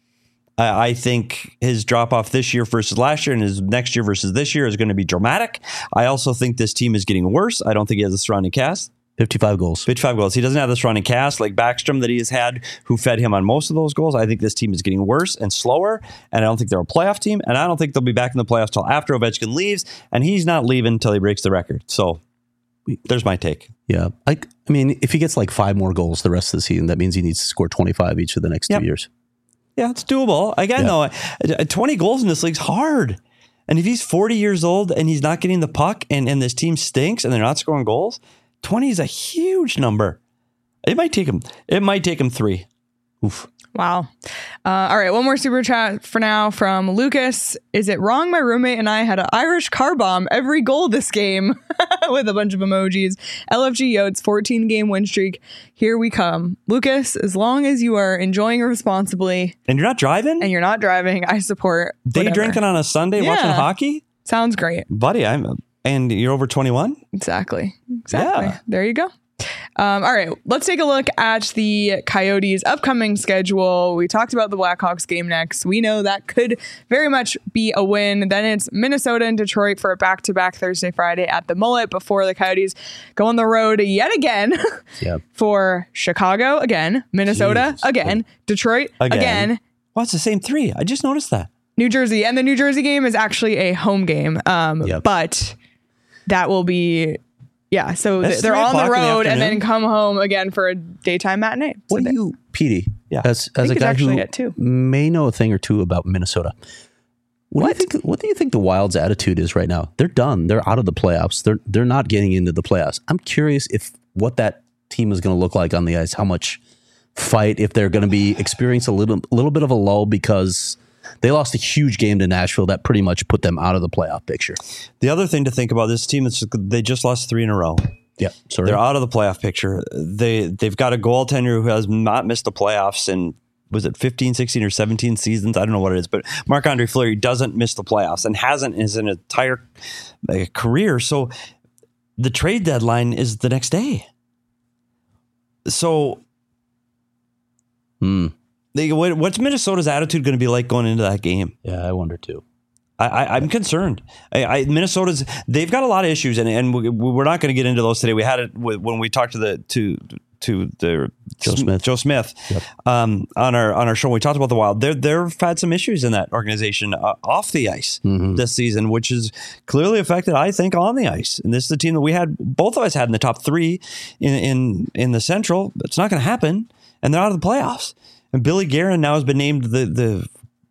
Speaker 3: I, I think his drop off this year versus last year and his next year versus this year is going to be dramatic. I also think this team is getting worse. I don't think he has a surrounding cast.
Speaker 2: fifty-five goals.
Speaker 3: fifty-five goals. He doesn't have the surrounding cast like Backstrom that he has had, who fed him on most of those goals. I think this team is getting worse and slower, and I don't think they're a playoff team, and I don't think they'll be back in the playoffs till after Ovechkin leaves, and he's not leaving until he breaks the record. So There's my take.
Speaker 2: Yeah. I, I mean, if he gets like five more goals the rest of the season, that means he needs to score twenty-five each of the next
Speaker 3: Yep.
Speaker 2: two years.
Speaker 3: Yeah, it's doable. Again,
Speaker 2: Yeah.
Speaker 3: though, twenty goals in this league's hard. And if he's forty years old and he's not getting the puck and, and this team stinks and they're not scoring goals, twenty is a huge number. It might take him. It might take him three.
Speaker 2: Oof.
Speaker 1: Wow. Uh, all right. One more super chat for now from Lucas. Is it wrong my roommate and I had an Irish car bomb every goal this game with a bunch of emojis? L F G Yotes fourteen game win streak. Here we come. Lucas, as long as you are enjoying responsibly
Speaker 3: And you're not driving?
Speaker 1: and you're not driving, I support
Speaker 3: Day
Speaker 1: whatever.
Speaker 3: drinking on a Sunday
Speaker 1: Yeah.
Speaker 3: watching hockey?
Speaker 1: Sounds great.
Speaker 3: Buddy, I'm and you're over twenty-one?
Speaker 1: Exactly. Exactly.
Speaker 3: Yeah.
Speaker 1: There you go. Um, all right, let's take a look at the Coyotes' upcoming schedule. We talked about the Blackhawks game next. We know that could very much be a win. Then it's Minnesota and Detroit for a back-to-back Thursday, Friday at the Mullet before the Coyotes go on the road yet again
Speaker 2: Yeah.
Speaker 1: for Chicago again, Minnesota
Speaker 2: Jesus.
Speaker 1: again, Detroit
Speaker 3: Again.
Speaker 1: again,
Speaker 3: Well, it's the same three. I just noticed that.
Speaker 1: New Jersey. And the New Jersey game is actually a home game, um,
Speaker 2: Yep.
Speaker 1: but that will be... Yeah, so th-
Speaker 3: That's
Speaker 1: they're
Speaker 3: three
Speaker 1: on the
Speaker 3: o'clock in the
Speaker 1: road and then
Speaker 3: afternoon.
Speaker 1: come home again for a daytime matinee. So
Speaker 2: What
Speaker 1: they-
Speaker 2: do you, Petey,
Speaker 3: Yeah.
Speaker 2: as, as a
Speaker 1: think it's
Speaker 2: guy
Speaker 1: actually
Speaker 2: who
Speaker 1: at two.
Speaker 2: may know a thing or two about Minnesota, what,
Speaker 1: What?
Speaker 2: do you think? What do you think the Wild's attitude is right now? They're done. They're out of the playoffs. They're they're not getting into the playoffs. I'm curious if what that team is going to look like on the ice. How much fight? If they're going to be experience a little little bit of a lull because they lost a huge game to Nashville that pretty much put them out of the playoff picture.
Speaker 3: The other thing to think about this team is they just lost three in a row.
Speaker 2: Yeah, sorry.
Speaker 3: They're out of the playoff picture. They they've got a goaltender who has not missed the playoffs in was it fifteen, sixteen, or seventeen seasons? I don't know what it is, but Marc-Andre Fleury doesn't miss the playoffs and hasn't in his entire uh, career. So the trade deadline is the next day. So
Speaker 2: Hmm.
Speaker 3: they, what, what's Minnesota's attitude going to be like going into that game?
Speaker 2: Yeah, I wonder too.
Speaker 3: I, I, I'm concerned. I, I, Minnesota's they've got a lot of issues, and and we, we're not going to get into those today. We had it with, when we talked to the to to the
Speaker 2: Joe Smith.
Speaker 3: Joe Smith
Speaker 2: Yep.
Speaker 3: um, on our on our show. We talked about the Wild. They're they've had some issues in that organization uh, off the ice
Speaker 2: Mhm.
Speaker 3: this season, which is clearly affected, I think, on the ice. And this is the team that we had both of us had in the top three in in in the Central. It's not going to happen, and they're out of the playoffs. And Billy Guerin now has been named the the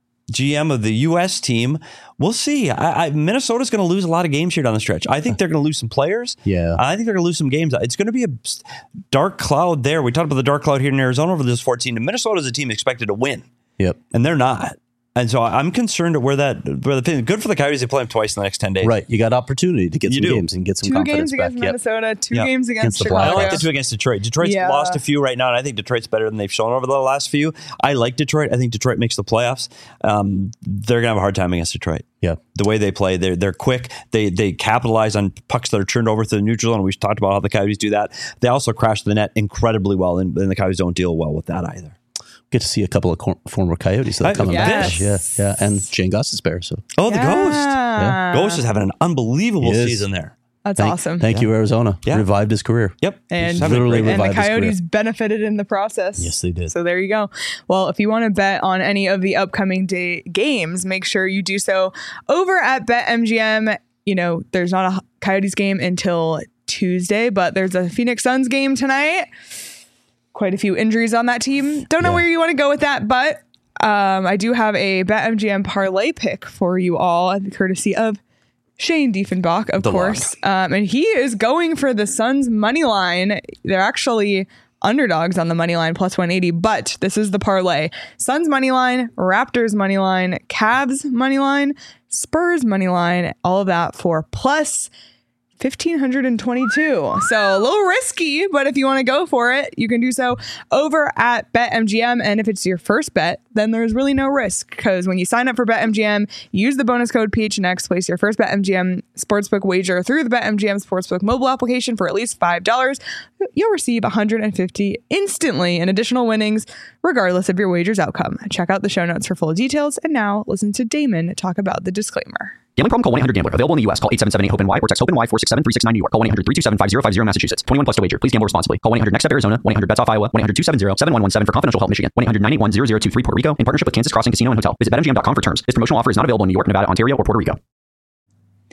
Speaker 3: G M of the U S team. We'll see. I, I, Minnesota's going to lose a lot of games here down the stretch. I think they're going to lose some players.
Speaker 2: Yeah.
Speaker 3: I think they're going to lose some games. It's going to be a dark cloud there. We talked about the dark cloud here in Arizona over this fourteen. And Minnesota is a team expected to win,
Speaker 2: Yep.
Speaker 3: and they're not. And so I'm concerned at where that where the good for the Coyotes. They play them twice in the next ten days.
Speaker 2: Right. You got opportunity to get
Speaker 3: You
Speaker 2: some
Speaker 3: do.
Speaker 2: games and get some
Speaker 1: two
Speaker 2: confidence
Speaker 1: games
Speaker 2: back.
Speaker 1: against
Speaker 2: Yep.
Speaker 1: Minnesota, two
Speaker 3: Yep.
Speaker 1: games against,
Speaker 2: Against the
Speaker 3: I
Speaker 1: Chicago.
Speaker 3: like the two against Detroit. Detroit's
Speaker 1: Yeah.
Speaker 3: lost a few right now, and I think Detroit's better than they've shown over the last few. I like Detroit. I think Detroit makes the playoffs. Um, they're gonna have a hard time against Detroit.
Speaker 2: Yeah.
Speaker 3: The way they play, they're they're quick. They they capitalize on pucks that are turned over to the neutral zone. We've talked about how the Coyotes do that. They also crash the net incredibly well, and, and the Coyotes don't deal well with that either.
Speaker 2: Get to see a couple of cor- former Coyotes that are
Speaker 3: I-
Speaker 2: coming
Speaker 1: Yes.
Speaker 2: back. Yeah, yeah, and Shane Gostisbehere. So
Speaker 3: Oh, the Ghost.
Speaker 1: Yeah.
Speaker 3: Ghost is having an unbelievable
Speaker 2: He is.
Speaker 3: season there.
Speaker 1: That's
Speaker 2: thank,
Speaker 1: awesome.
Speaker 2: Thank you, Arizona.
Speaker 3: Yeah.
Speaker 2: Revived his career.
Speaker 3: Yep.
Speaker 1: And,
Speaker 3: He's having a
Speaker 2: literally
Speaker 3: great-
Speaker 1: and the
Speaker 2: revived his career.
Speaker 1: Coyotes benefited in the process.
Speaker 2: Yes, they did.
Speaker 1: So there you go. Well, if you want to bet on any of the upcoming day games, make sure you do so over at BetMGM. You know, there's not a Coyotes game until Tuesday, but there's a Phoenix Suns game tonight. Quite a few injuries on that team. Don't know
Speaker 2: Yeah.
Speaker 1: where you want to go with that, but um, I do have a BetMGM parlay pick for you all, courtesy of Shane Diefenbach, of
Speaker 3: The
Speaker 1: course. Um, and he is going for the Suns money line. They're actually underdogs on the money line, plus one eighty, but this is the parlay. Suns money line, Raptors money line, Cavs money line, Spurs money line, all of that for plus fifteen twenty-two. So a little risky, but if you want to go for it, you can do so over at BetMGM. And if it's your first bet, then there's really no risk, because when you sign up for BetMGM, use the bonus code P H N X, place your first BetMGM sportsbook wager through the BetMGM sportsbook mobile application for at least five dollars. You'll receive one hundred fifty instantly in additional winnings, regardless of your wager's outcome. Check out the show notes for full details. And now listen to Damon talk about the disclaimer.
Speaker 4: Gambling problem? Call one eight hundred gambler. Available in the U S. Call eight seven seven eight hope N Y or text HOPE-NY four six seven three six nine New York. Call one eight hundred three two seven five zero five zero Massachusetts. twenty-one plus to wager. Please gamble responsibly. Call one eight hundred next step Arizona. one eight hundred bets off Iowa. one eight hundred two seven zero seven one one seven for confidential help Michigan. one eight hundred nine eight one zero zero two three Puerto Rico in partnership with Kansas Crossing Casino and Hotel. Visit bet M G M dot com for terms. This promotional offer is not available in New York, Nevada, Ontario, or Puerto Rico.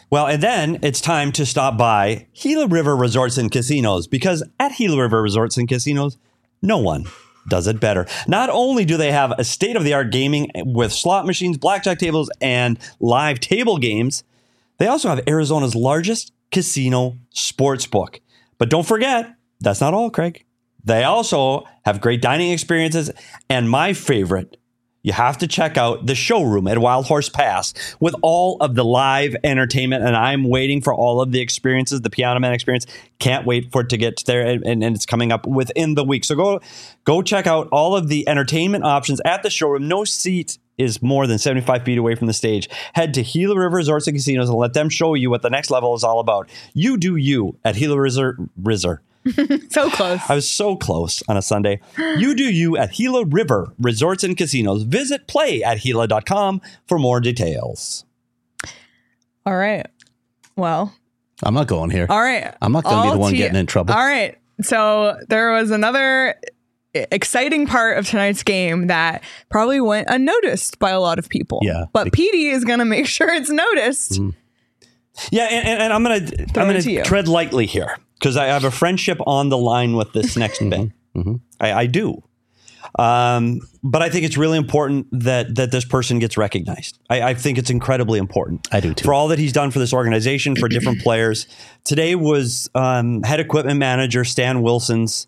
Speaker 3: Well, and then it's time to stop by Gila River Resorts and Casinos, because at Gila River Resorts and Casinos, no one does it better. Not only do they have a state-of-the-art gaming with slot machines, blackjack tables, and live table games, they also have Arizona's largest casino sports book. But don't forget, that's not all, Craig. They also have great dining experiences, and my favorite, you have to check out the showroom at Wild Horse Pass with all of the live entertainment. And I'm waiting for all of the experiences, the Piano Man experience. Can't wait for it to get there. And, and, and it's coming up within the week. So go, go check out all of the entertainment options at the showroom. No seat is more than seventy-five feet away from the stage. Head to Gila River Resorts and Casinos and let them show you what the next level is all about. You do you at Gila River. River.
Speaker 1: So close.
Speaker 3: I was so close on a Sunday. You do you at Gila River Resorts and Casinos. Visit play at Gila dot com for more details.
Speaker 1: All right. Well,
Speaker 2: I'm not going here.
Speaker 1: all right.
Speaker 2: I'm not going to be
Speaker 1: All
Speaker 2: the one
Speaker 1: to-
Speaker 2: getting in trouble.
Speaker 1: All right. So there was another exciting part of tonight's game that probably went unnoticed by a lot of people.
Speaker 2: Yeah.
Speaker 1: But Petey is going to make sure it's noticed.
Speaker 2: Mm-hmm.
Speaker 3: Yeah, and, and, and I'm gonna
Speaker 1: Throw
Speaker 3: I'm
Speaker 1: it to
Speaker 3: gonna
Speaker 1: you.
Speaker 3: tread lightly here because I have a friendship on the line with this next bit.
Speaker 2: Mm-hmm.
Speaker 3: I, I do. Um, but I think it's really important that that this person gets recognized. I, I think it's incredibly important.
Speaker 2: I do too.
Speaker 3: For all that he's done for this organization, for different players. Today was um, head equipment manager Stan Wilson's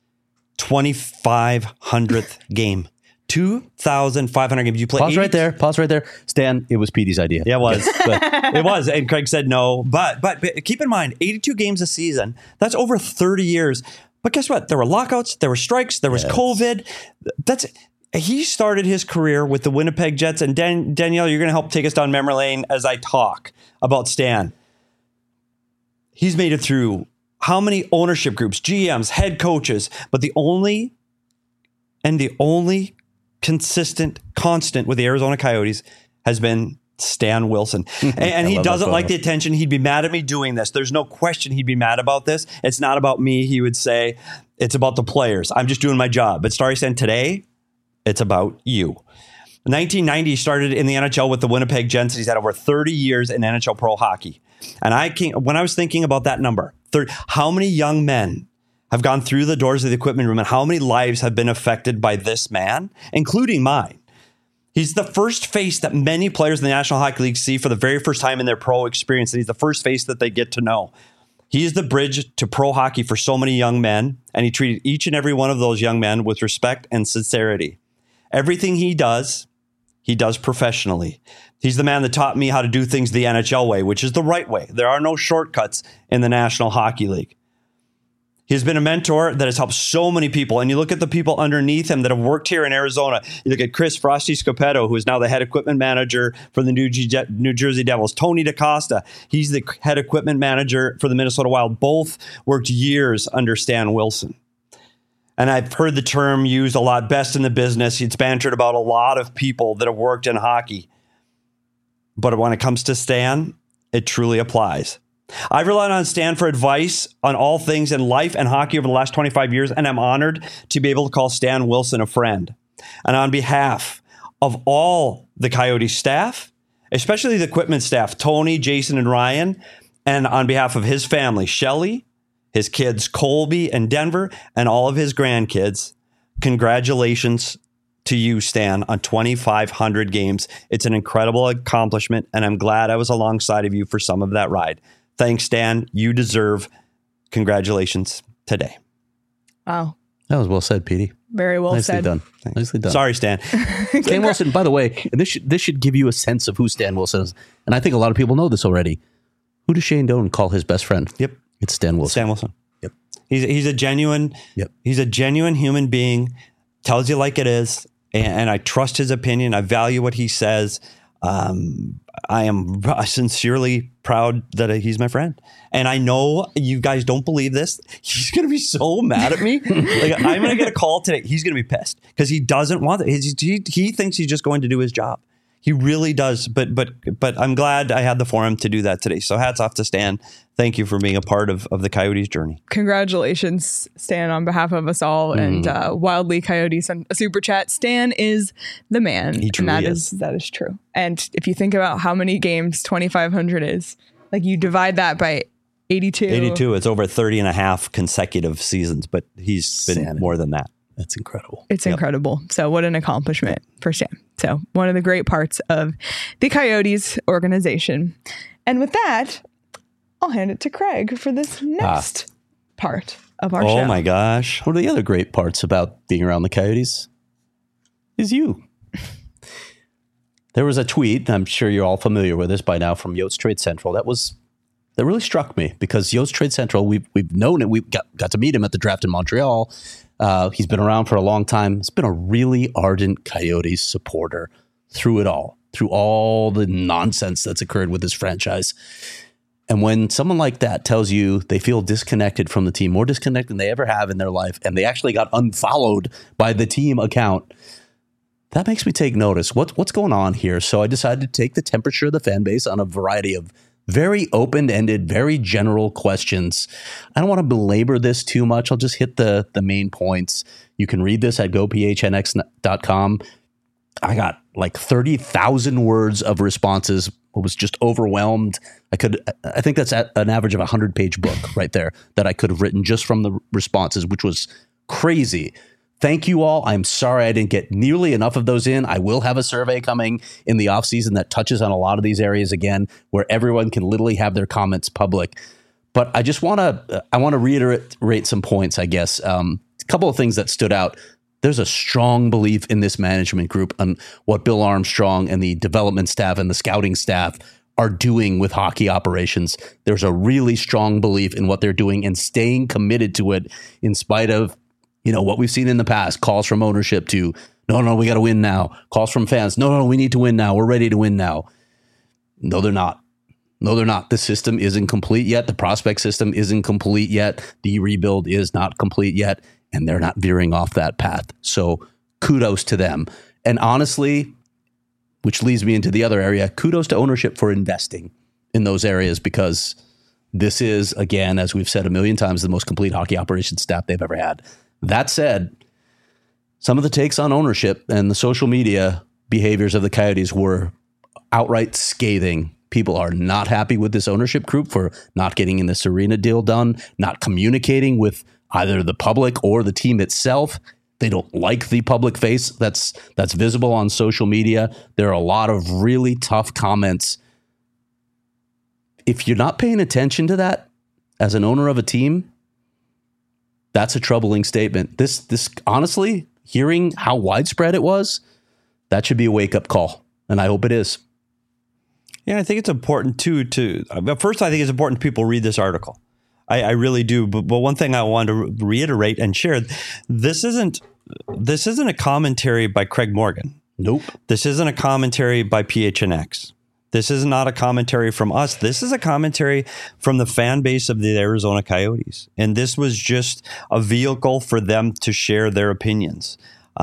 Speaker 3: twenty-five hundredth game. two thousand five hundred games. You play
Speaker 2: Pause
Speaker 3: eighty
Speaker 2: right there. Pause right there. Stan, it was Petey's idea.
Speaker 3: Yeah, it was.
Speaker 2: But
Speaker 3: It was. And Craig said no. But, but but keep in mind, eighty-two games a season. That's over thirty years. But guess what? There were lockouts. There were strikes. There was
Speaker 2: Yes.
Speaker 3: COVID. That's he started his career with the Winnipeg Jets. And Dan, Danielle, you're going to help take us down memory lane as I talk about Stan. He's made it through how many ownership groups, G Ms, head coaches, but the only and the only consistent constant with the Arizona Coyotes has been Stan Wilson. And, and
Speaker 2: I
Speaker 3: he
Speaker 2: love that
Speaker 3: doesn't like
Speaker 2: photo.
Speaker 3: the attention. He'd be mad at me doing this. There's no question he'd be mad about this. It's not about me. He would say, it's about the players. I'm just doing my job. But Starry Stan, today, it's about you. In nineteen ninety, he started in the N H L with the Winnipeg Jets. He's had over thirty years in N H L pro hockey. And I came, when I was thinking about that number, thirty, how many young men have gone through the doors of the equipment room and how many lives have been affected by this man, including mine? He's the first face that many players in the National Hockey League see for the very first time in their pro experience. And he's the first face that they get to know. He is the bridge to pro hockey for so many young men. And he treated each and every one of those young men with respect and sincerity. Everything he does, he does professionally. He's the man that taught me how to do things the N H L way, which is the right way. There are no shortcuts in the National Hockey League. He's been a mentor that has helped so many people. And you look at the people underneath him that have worked here in Arizona. You look at Chris Frosty Scopetto, who is now the head equipment manager for the New, G- New Jersey Devils. Tony DaCosta, he's the head equipment manager for the Minnesota Wild. Both worked years under Stan Wilson. And I've heard the term used a lot, best in the business. It's bantered about a lot of people that have worked in hockey. But when it comes to Stan, it truly applies. I've relied on Stan for advice on all things in life and hockey over the last twenty-five years, and I'm honored to be able to call Stan Wilson a friend. And on behalf of all the Coyote staff, especially the equipment staff, Tony, Jason, and Ryan, and on behalf of his family, Shelly, his kids, Colby and Denver, and all of his grandkids, congratulations to you, Stan, on twenty-five hundred games. It's an incredible accomplishment, and I'm glad I was alongside of you for some of that ride. Thanks, Stan. You deserve congratulations today.
Speaker 1: Wow.
Speaker 2: that was well said, Petey.
Speaker 1: Very well
Speaker 2: Nicely
Speaker 1: said.
Speaker 2: done. Nicely done.
Speaker 3: Sorry, Stan.
Speaker 2: Stan Wilson, by the way, and this should, this should give you a sense of who Stan Wilson is. And I think a lot of people know this already. Who does Shane Doan call his best friend?
Speaker 3: Yep.
Speaker 2: It's Stan Wilson.
Speaker 3: Stan Wilson.
Speaker 2: Yep.
Speaker 3: He's he's a genuine.
Speaker 2: Yep.
Speaker 3: He's a genuine human being. Tells you like it is, and, and I trust his opinion. I value what he says. Um, I am sincerely proud that he's my friend, and I know you guys don't believe this. He's gonna be so mad at me. Like I'm gonna get a call today. He's gonna be pissed because he doesn't want it. He's, he he thinks he's just going to do his job. He really does. But but but I'm glad I had the forum to do that today. So hats off to Stan. Thank you for being a part of, of the Coyotes journey.
Speaker 1: Congratulations, Stan, on behalf of us all,
Speaker 2: Mm.
Speaker 1: and uh, Wildly Coyotes and a super chat. Stan is the man.
Speaker 3: He truly
Speaker 1: and that
Speaker 3: is.
Speaker 1: is that is true. And if you think about how many games twenty-five hundred is, Like you divide that by eighty-two.
Speaker 3: eighty-two. It's over thirty and a half consecutive seasons, but he's been
Speaker 2: Sanity.
Speaker 3: more than that.
Speaker 2: That's incredible.
Speaker 1: It's
Speaker 3: Yep.
Speaker 1: incredible. So what an accomplishment for Sam. So one of the great parts of the Coyotes organization. And with that, I'll hand it to Craig for this next part of our
Speaker 3: Oh
Speaker 1: show.
Speaker 3: my gosh.
Speaker 2: One of the other great parts about being around the Coyotes is you. There was a tweet, I'm sure you're all familiar with this by now, from Yost Trade Central. That was that really struck me because Yost Trade Central, we've we've known it. We got got to meet him at the draft in Montreal. Uh, he's been around for a long time. He's been a really ardent Coyotes supporter through it all, through all the nonsense that's occurred with this franchise. And when someone like that tells you they feel disconnected from the team, more disconnected than they ever have in their life, and they actually got unfollowed by the team account, that makes me take notice. What, what's going on here? So I decided to take the temperature of the fan base on a variety of very open-ended, very general questions. I don't want to belabor this too much. I'll just hit the, the main points. You can read this at go p h n x dot com. I got like thirty thousand words of responses. I was just overwhelmed. I could, I think that's at an average of a hundred page book right there that I could have written just from the responses, which was crazy. Thank you all. I'm sorry I didn't get nearly enough of those in. I will have a survey coming in the off season that touches on a lot of these areas again, where everyone can literally have their comments public. But I just want to, I want to reiterate some points, I guess. Um, a couple of things that stood out. There's a strong belief in this management group on what Bill Armstrong and the development staff and the scouting staff are doing with hockey operations. There's a really strong belief in what they're doing and staying committed to it in spite of, you know, what we've seen in the past, calls from ownership to, no, no, we got to win now. Calls from fans, no, no, we need to win now. We're ready to win now. No, they're not. No, they're not. The system isn't complete yet. The prospect system isn't complete yet. The rebuild is not complete yet. And they're not veering off that path. So kudos to them. And honestly, which leads me into the other area, kudos to ownership for investing in those areas, because this is, again, as we've said a million times, the most complete hockey operations staff they've ever had. That said, some of the takes on ownership and the social media behaviors of the Coyotes were outright scathing. People are not happy with this ownership group for not getting in this arena deal done, not communicating with either the public or the team itself. They don't like the public face that's that's visible on social media. There are a lot of really tough comments. If you're not paying attention to that as an owner of a team, that's a troubling statement. This, this honestly, hearing how widespread it was, that should be a wake-up call, and I hope it is.
Speaker 3: Yeah, I think it's important too to. But first, I think it's important people read this article. I, I really do. But, but one thing I want to reiterate and share: this isn't this isn't a commentary by Craig Morgan.
Speaker 2: Nope.
Speaker 3: This isn't a commentary by P H N X. This is not a commentary from us. This is a commentary from the fan base of the Arizona Coyotes. And this was just a vehicle for them to share their opinions.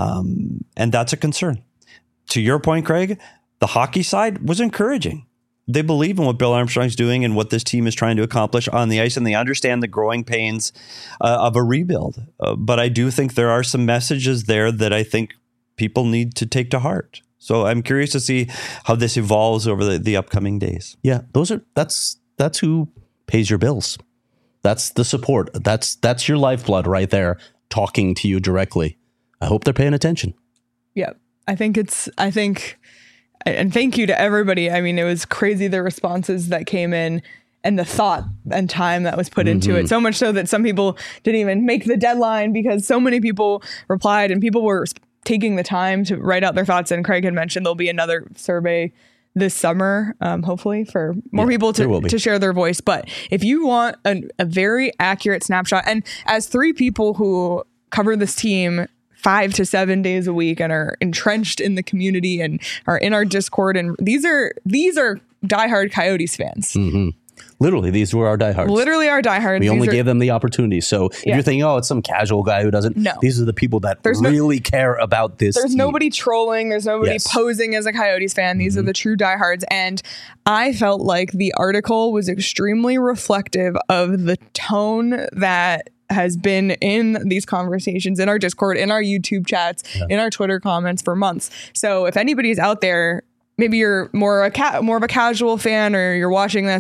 Speaker 3: Um, and that's a concern. To your point, Craig, the hockey side was encouraging. They believe in what Bill Armstrong's doing and what this team is trying to accomplish on the ice, and they understand the growing pains uh, of a rebuild. Uh, but I do think there are some messages there that I think people need to take to heart. So I'm curious to see how this evolves over the, the upcoming days.
Speaker 2: Yeah, those are that's that's who pays your bills. That's the support. That's that's your lifeblood right there, talking to you directly. I hope they're paying attention.
Speaker 1: Yeah, I think it's, I think, and thank you to everybody. I mean, it was crazy the responses that came in and the thought and time that was put mm-hmm. into it. So much so that some people didn't even make the deadline because so many people replied and people were taking the time to write out their thoughts. And Craig had mentioned there'll be another survey this summer, um, hopefully for more yeah, people to, to share their voice. But if you want a, a very accurate snapshot, and as three people who cover this team five to seven days a week and are entrenched in the community and are in our Discord, and these are these are diehard Coyotes fans.
Speaker 2: Mm-hmm. Literally, these were our diehards.
Speaker 1: Literally our diehards.
Speaker 2: We
Speaker 1: these
Speaker 2: only
Speaker 1: are,
Speaker 2: gave them the opportunity. So if
Speaker 1: yeah.
Speaker 2: you're thinking, oh, it's some casual guy who doesn't.
Speaker 1: No.
Speaker 2: These are the people that
Speaker 1: there's
Speaker 2: really
Speaker 1: no,
Speaker 2: care about this
Speaker 1: There's
Speaker 2: team.
Speaker 1: nobody trolling. There's nobody
Speaker 2: yes.
Speaker 1: posing as a Coyotes fan. These mm-hmm. are the true diehards. And I felt like the article was extremely reflective of the tone that has been in these conversations, in our Discord, in our YouTube chats, yeah. in our Twitter comments for months. So if anybody's out there, maybe you're more a ca- more of a casual fan, or you're watching this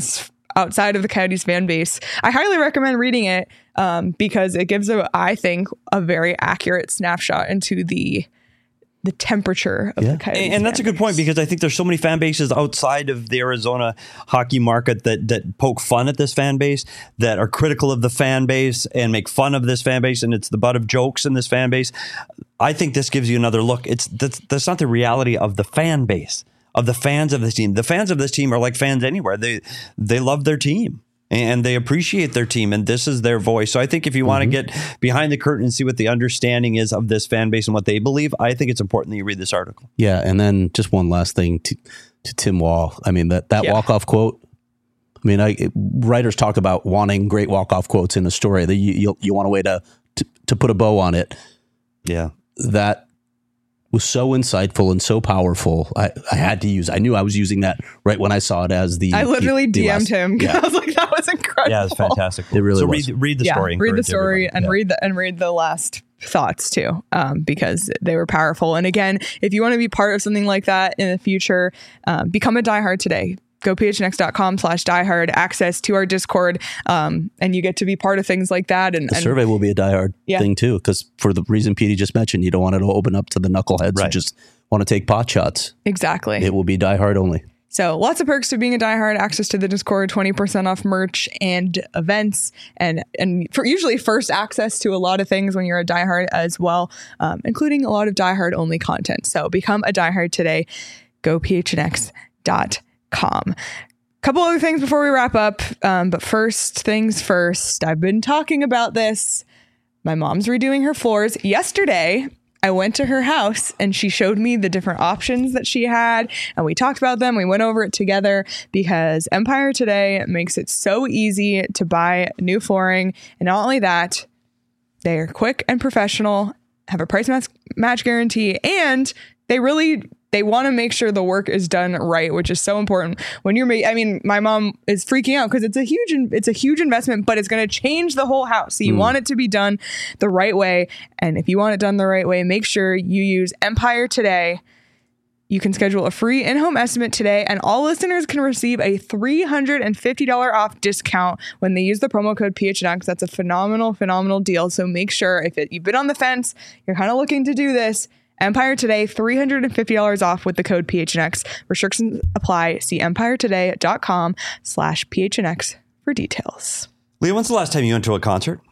Speaker 1: outside of the Coyotes fan base. I highly recommend reading it um, because it gives a, I think, a very accurate snapshot into the the temperature of
Speaker 2: Yeah.
Speaker 1: the Coyotes.
Speaker 3: And, and that's a
Speaker 1: fan
Speaker 3: good point
Speaker 1: base.
Speaker 3: because I think there's so many fan bases outside of the Arizona hockey market that that poke fun at this fan base, that are critical of the fan base and make fun of this fan base, and it's the butt of jokes in this fan base. I think this gives you another look. It's that's, that's not the reality of the fan base, of the fans of this team. The fans of this team are like fans anywhere. They they love their team. And they appreciate their team, and this is their voice. So I think if you want to get behind the curtain and see what the understanding is of this fan base and what they believe, I think it's important that you read this article.
Speaker 2: Yeah, and then just one last thing to, to Tim Wall. I mean, that, that
Speaker 1: Yeah.
Speaker 2: walk-off quote, I mean, I, writers talk about wanting great walk-off quotes in a story. That you, you, you want a way to, to, to put a bow on it.
Speaker 3: Yeah.
Speaker 2: That was so insightful and so powerful. I, I had to use, I knew I was using that right when I saw it as the...
Speaker 1: I literally
Speaker 2: the, the
Speaker 1: D M'd
Speaker 2: last-
Speaker 1: him because
Speaker 2: Yeah.
Speaker 1: I was like, that was incredible.
Speaker 3: Yeah, it's fantastic.
Speaker 2: It really
Speaker 3: so
Speaker 2: was.
Speaker 3: read read the
Speaker 1: Yeah,
Speaker 3: story.
Speaker 1: read the
Speaker 3: Encourage
Speaker 1: story
Speaker 3: everybody.
Speaker 1: and
Speaker 3: Yeah.
Speaker 1: read the and read the last thoughts too, um, because they were powerful. And again, if you want to be part of something like that in the future, um, become a diehard today. Go phnx.com slash diehard, access to our Discord, um, and you get to be part of things like that. And,
Speaker 2: The
Speaker 1: and
Speaker 2: survey will be a diehard
Speaker 1: Yeah.
Speaker 2: thing too, because for the reason Petey just mentioned, you don't want it to open up to the knuckleheads who
Speaker 3: Right.
Speaker 2: just want to take pot shots.
Speaker 1: exactly.
Speaker 2: It will be diehard only.
Speaker 1: So lots of perks to being a diehard, access to the Discord, twenty percent off merch and events, and and for usually first access to a lot of things when you're a diehard as well, um, including a lot of diehard only content. So become a diehard today. Go p h n x dot com. Couple other things before we wrap up. Um, but first things first, I've been talking about this. My mom's redoing her floors. Yesterday, I went to her house and she showed me the different options that she had, and we talked about them. We went over it together because Empire Today makes it so easy to buy new flooring. And not only that, they are quick and professional, have a price match, match guarantee, and they really they want to make sure the work is done right, which is so important. When you're ma- I mean, my mom is freaking out because it's a huge in- it's a huge investment, but it's going to change the whole house. So you want it to be done the right way, and if you want it done the right way, make sure you use Empire Today. You can schedule a free in-home estimate today, and all listeners can receive a three hundred fifty dollars off discount when they use the promo code P H N X. That's a phenomenal, phenomenal deal. So make sure if it, you've been on the fence, you're kind of looking to do this, Empire Today, three hundred fifty dollars off with the code P H N X. Restrictions apply. See empiretoday.com slash PHNX for details.
Speaker 3: Leah, when's the last time you went to a concert?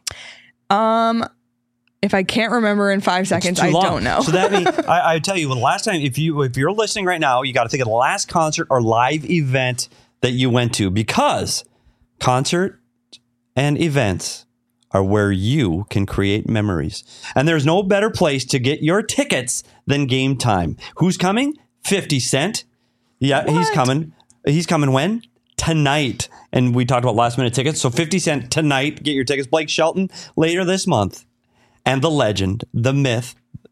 Speaker 1: Um, if I can't remember in five seconds,
Speaker 3: Too
Speaker 1: I
Speaker 3: long.
Speaker 1: don't know.
Speaker 3: So that means I, I tell you, well, the last time, if you if you're listening right now, you got to think of the last concert or live event that you went to, because concert and events are where you can create memories. And there's no better place to get your tickets than Game Time. Who's coming? fifty Cent. Yeah, he's
Speaker 1: What?
Speaker 3: coming. He's coming when? Tonight. And we talked about last minute tickets. So fifty Cent tonight. Get your tickets. Blake Shelton later this month. And the legend, the myth,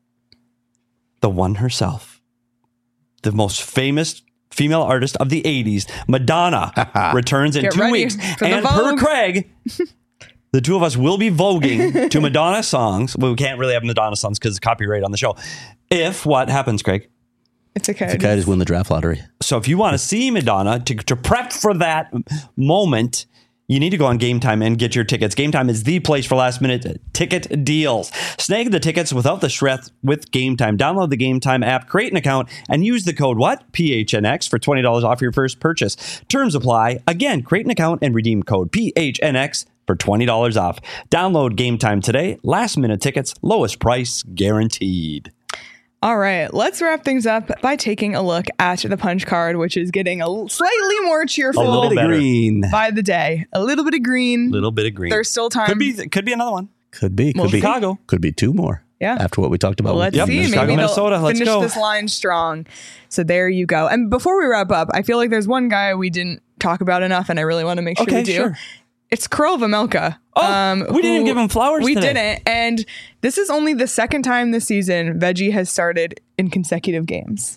Speaker 3: the one herself, the most famous female artist of the eighties, Madonna, returns in
Speaker 1: Get
Speaker 3: two
Speaker 1: ready
Speaker 3: weeks.
Speaker 1: for the
Speaker 3: And per
Speaker 1: Vogue.
Speaker 3: Craig, the two of us will be voguing to Madonna songs. Well, we can't really have Madonna songs because of copyright on the show. If what happens, Craig?
Speaker 1: It's okay.
Speaker 2: The guy just win the draft lottery.
Speaker 3: So if you want to see Madonna, to, to prep for that moment, you need to go on Game Time and get your tickets. Game Time is the place for last minute ticket deals. Snag the tickets without the stress with Game Time. Download the Game Time app, create an account, and use the code what? P H N X for twenty dollars off your first purchase. Terms apply. Again, create an account and redeem code P H N X for twenty dollars off. Download Game Time today. Last minute tickets, lowest price guaranteed.
Speaker 1: All right, let's wrap things up by taking a look at the punch card, which is getting a l- slightly more cheerful
Speaker 3: A little
Speaker 2: Bit of
Speaker 3: better.
Speaker 2: green.
Speaker 1: by the day. A little bit of green.
Speaker 3: Little bit of green.
Speaker 1: There's still time.
Speaker 3: Could be, could be another one.
Speaker 2: Could be. Could
Speaker 1: Well,
Speaker 2: be.
Speaker 3: Chicago.
Speaker 2: Could be two more.
Speaker 1: Yeah.
Speaker 2: After what we talked about.
Speaker 1: Well,
Speaker 2: with
Speaker 1: let's
Speaker 3: Yep,
Speaker 1: see.
Speaker 3: Chicago,
Speaker 1: Maybe they'll
Speaker 3: Minnesota, let's
Speaker 1: finish
Speaker 3: go.
Speaker 1: this line strong. So there you go. And before we wrap up, I feel like there's one guy we didn't talk about enough, and I really want to make sure
Speaker 3: Okay,
Speaker 1: we do.
Speaker 3: sure.
Speaker 1: It's Krul Vejmelka.
Speaker 3: Oh, we didn't
Speaker 1: who-
Speaker 3: give him flowers
Speaker 1: We
Speaker 3: today.
Speaker 1: didn't. And this is only the second time this season Veggie has started in consecutive games.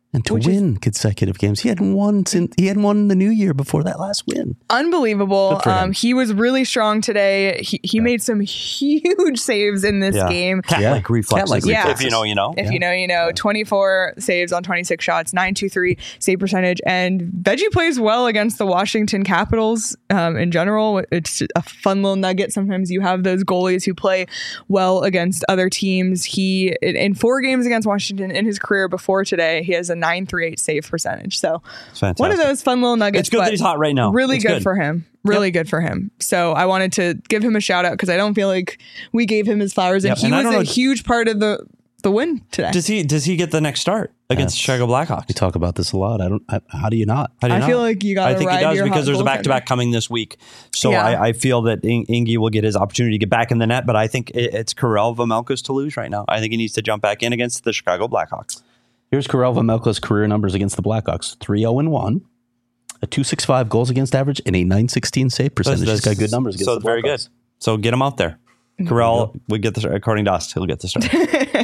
Speaker 2: And to
Speaker 1: Which
Speaker 2: win consecutive games. He hadn't won since he hadn't won the new year before that last win.
Speaker 1: Unbelievable.
Speaker 2: Good for him.
Speaker 1: Um, he was really strong today. He he made some huge saves in this
Speaker 3: Yeah.
Speaker 1: game.
Speaker 3: Cat-like
Speaker 2: Yeah.
Speaker 3: reflexes.
Speaker 2: Cat-like
Speaker 3: If-
Speaker 1: reflexes.
Speaker 3: If you know, you know.
Speaker 1: If you know, you know, twenty-four saves on twenty-six shots, nine two three save percentage. And Veggie plays well against the Washington Capitals um, in general. It's a fun little nugget. Sometimes you have those goalies who play well against other teams. He, in, in four games against Washington in his career before today, he has a nine three eight save percentage. So
Speaker 3: It's fantastic.
Speaker 1: one of those fun little nuggets.
Speaker 3: It's good
Speaker 1: but
Speaker 3: that he's hot right now.
Speaker 1: Really
Speaker 3: It's
Speaker 1: good,
Speaker 3: good.
Speaker 1: for him. Really good for him. So I wanted to give him a shout out because I don't feel like we gave him his flowers. And
Speaker 3: Yep,
Speaker 1: he
Speaker 3: and I
Speaker 1: was
Speaker 3: don't
Speaker 1: a
Speaker 3: know-
Speaker 1: huge part of the, the win today.
Speaker 3: Does he does he get the next start against the Chicago Blackhawks?
Speaker 2: We talk about this a lot. I don't. I, how do you not?
Speaker 3: How do you
Speaker 1: I feel
Speaker 3: not?
Speaker 1: like you gotta
Speaker 3: I think
Speaker 1: ride
Speaker 3: he does
Speaker 1: your
Speaker 3: because
Speaker 1: hot
Speaker 3: there's a
Speaker 1: goaltender.
Speaker 3: back to back coming this week. So
Speaker 1: Yeah.
Speaker 3: I, I feel that In- Ingy will get his opportunity to get back in the net. But I think it, it's Karel Vejmelka's to lose right now. I think he needs to jump back in against the Chicago Blackhawks.
Speaker 2: Here's Karel Vejmelka's career numbers against the Blackhawks: three oh and one, a two sixty-five goals against average, and a nine sixteen save percentage. He's got good numbers against
Speaker 3: So
Speaker 2: the
Speaker 3: very good.
Speaker 2: Blackhawks.
Speaker 3: So get him out there. Karel would get the according to us. He'll get the start.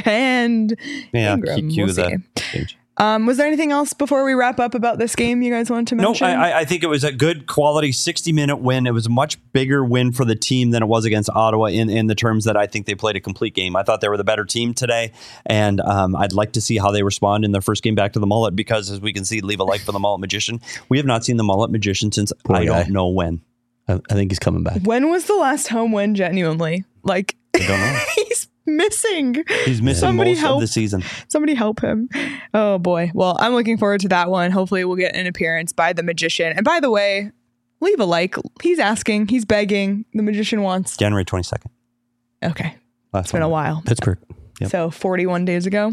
Speaker 1: and
Speaker 3: Yeah,
Speaker 1: Ingram,
Speaker 3: cue
Speaker 1: we'll
Speaker 3: the
Speaker 1: see.
Speaker 3: change.
Speaker 1: Um, was there anything else before we wrap up about this game you guys wanted to
Speaker 3: No,
Speaker 1: mention?
Speaker 3: I, I- I think it was a good quality sixty minute win. It was a much bigger win for the team than it was against Ottawa in, in the terms that I think they played a complete game. I thought they were the better team today, and um, I'd like to see how they respond in their first game back to the mullet because, as we can see, leave a like for the mullet magician. We have not seen the mullet magician since
Speaker 2: Poor
Speaker 3: I
Speaker 2: guy.
Speaker 3: don't know when.
Speaker 2: I, I think he's coming back.
Speaker 1: When was the last home win, genuinely? Like,
Speaker 3: I don't know.
Speaker 1: he's missing.
Speaker 3: He's missing
Speaker 1: Somebody
Speaker 3: most
Speaker 1: help.
Speaker 3: of the season.
Speaker 1: Somebody help him. Oh, boy. Well, I'm looking forward to that one. Hopefully, we'll get an appearance by the magician. And by the way, leave a like. He's asking. He's begging. The magician wants.
Speaker 3: January twenty-second.
Speaker 1: Okay.
Speaker 3: Last
Speaker 1: It's been a while.
Speaker 2: Pittsburgh.
Speaker 3: Yep.
Speaker 1: So forty-one days ago.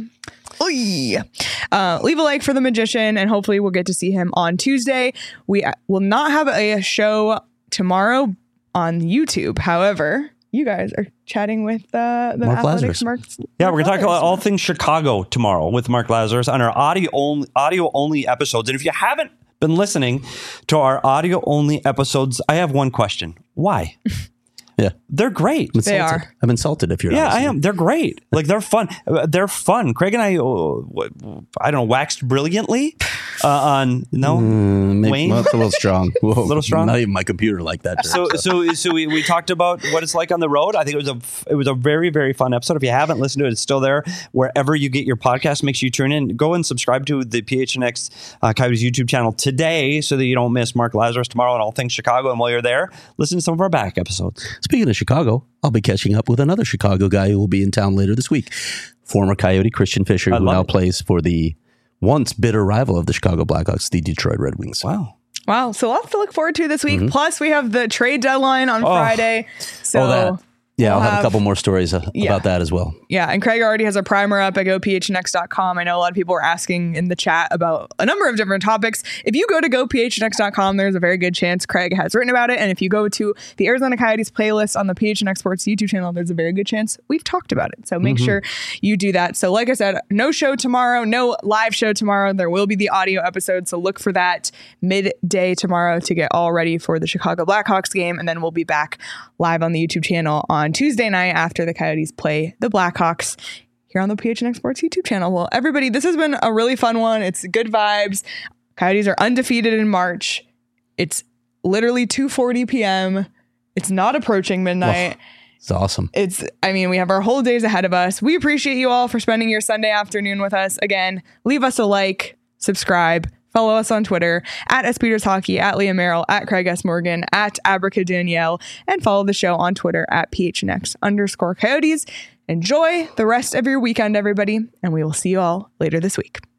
Speaker 1: Oy. Uh, leave a like for the magician, and hopefully we'll get to see him on Tuesday. We will not have a show tomorrow on YouTube. However, you guys are chatting with uh, the
Speaker 2: Mark
Speaker 1: athletics.
Speaker 2: Lazarus.
Speaker 1: Mark,
Speaker 3: Yeah, we're
Speaker 1: Mark
Speaker 3: going to talk about
Speaker 1: Lazarus.
Speaker 3: all things Chicago tomorrow with Mark Lazarus on our audio only, audio only episodes. And if you haven't been listening to our audio only episodes, I have one question. Why?
Speaker 2: Yeah.
Speaker 3: They're great.
Speaker 2: I'm
Speaker 1: They
Speaker 2: insulted.
Speaker 1: are.
Speaker 2: I'm insulted if you're
Speaker 3: Yeah,
Speaker 2: not
Speaker 3: I
Speaker 2: listening.
Speaker 3: am. They're great. Like they're fun. Uh, They're fun. Craig and I, uh, what- I don't know, waxed brilliantly uh, on no.
Speaker 2: Mm, maybe,
Speaker 3: Wayne?
Speaker 2: well, it's a little strong. A
Speaker 3: Little strong?
Speaker 2: Not even my computer like that.
Speaker 3: So, so, so we, we talked about what it's like on the road. I think it was a, it was a very, very fun episode. If you haven't listened to it, it's still there wherever you get your podcast. Make sure you tune in. Go and subscribe to the P H N X uh, Coyotes YouTube channel today, so that you don't miss Mark Lazarus tomorrow and all things Chicago. And while you're there, listen to some of our back episodes.
Speaker 2: Speaking of Chicago, I'll be catching up with another Chicago guy who will be in town later this week. Former Coyote Christian Fisher,
Speaker 3: I
Speaker 2: who
Speaker 3: love
Speaker 2: now
Speaker 3: it.
Speaker 2: plays for the once bitter rival of the Chicago Blackhawks, the Detroit Red Wings.
Speaker 3: Wow.
Speaker 1: Wow. So lots to look forward to this week. Plus, we have the trade deadline on Friday. So
Speaker 2: Oh, that. Yeah,
Speaker 1: we'll
Speaker 2: I'll have,
Speaker 1: have-
Speaker 2: a couple more stories uh,
Speaker 1: Yeah.
Speaker 2: about that as well.
Speaker 1: Yeah, and Craig already has a primer up at go p h n x dot com. I know a lot of people are asking in the chat about a number of different topics. If you go to go p h n x dot com, there's a very good chance Craig has written about it. And if you go to the Arizona Coyotes playlist on the P H N X Sports YouTube channel, there's a very good chance we've talked about it. So make sure you do that. So like I said, no show tomorrow, no live show tomorrow. There will be the audio episode. So look for that midday tomorrow to get all ready for the Chicago Blackhawks game. And then we'll be back live on the YouTube channel on Tuesday night after the Coyotes play the Blackhawks here on the P H N X Sports YouTube channel. Well, everybody, this has been a really fun one. It's good vibes. Coyotes are undefeated in March. It's literally two forty p.m. It's not approaching midnight.
Speaker 2: It's awesome.
Speaker 1: It's, I mean, we have our whole days ahead of us. We appreciate you all for spending your Sunday afternoon with us. Again, leave us a like, subscribe, follow us on Twitter at S Peters Hockey, at Liam Merrill, at Craig S. Morgan, at Abraca Danielle, and follow the show on Twitter at P H N X underscore Coyotes. Enjoy the rest of your weekend, everybody, and we will see you all later this week.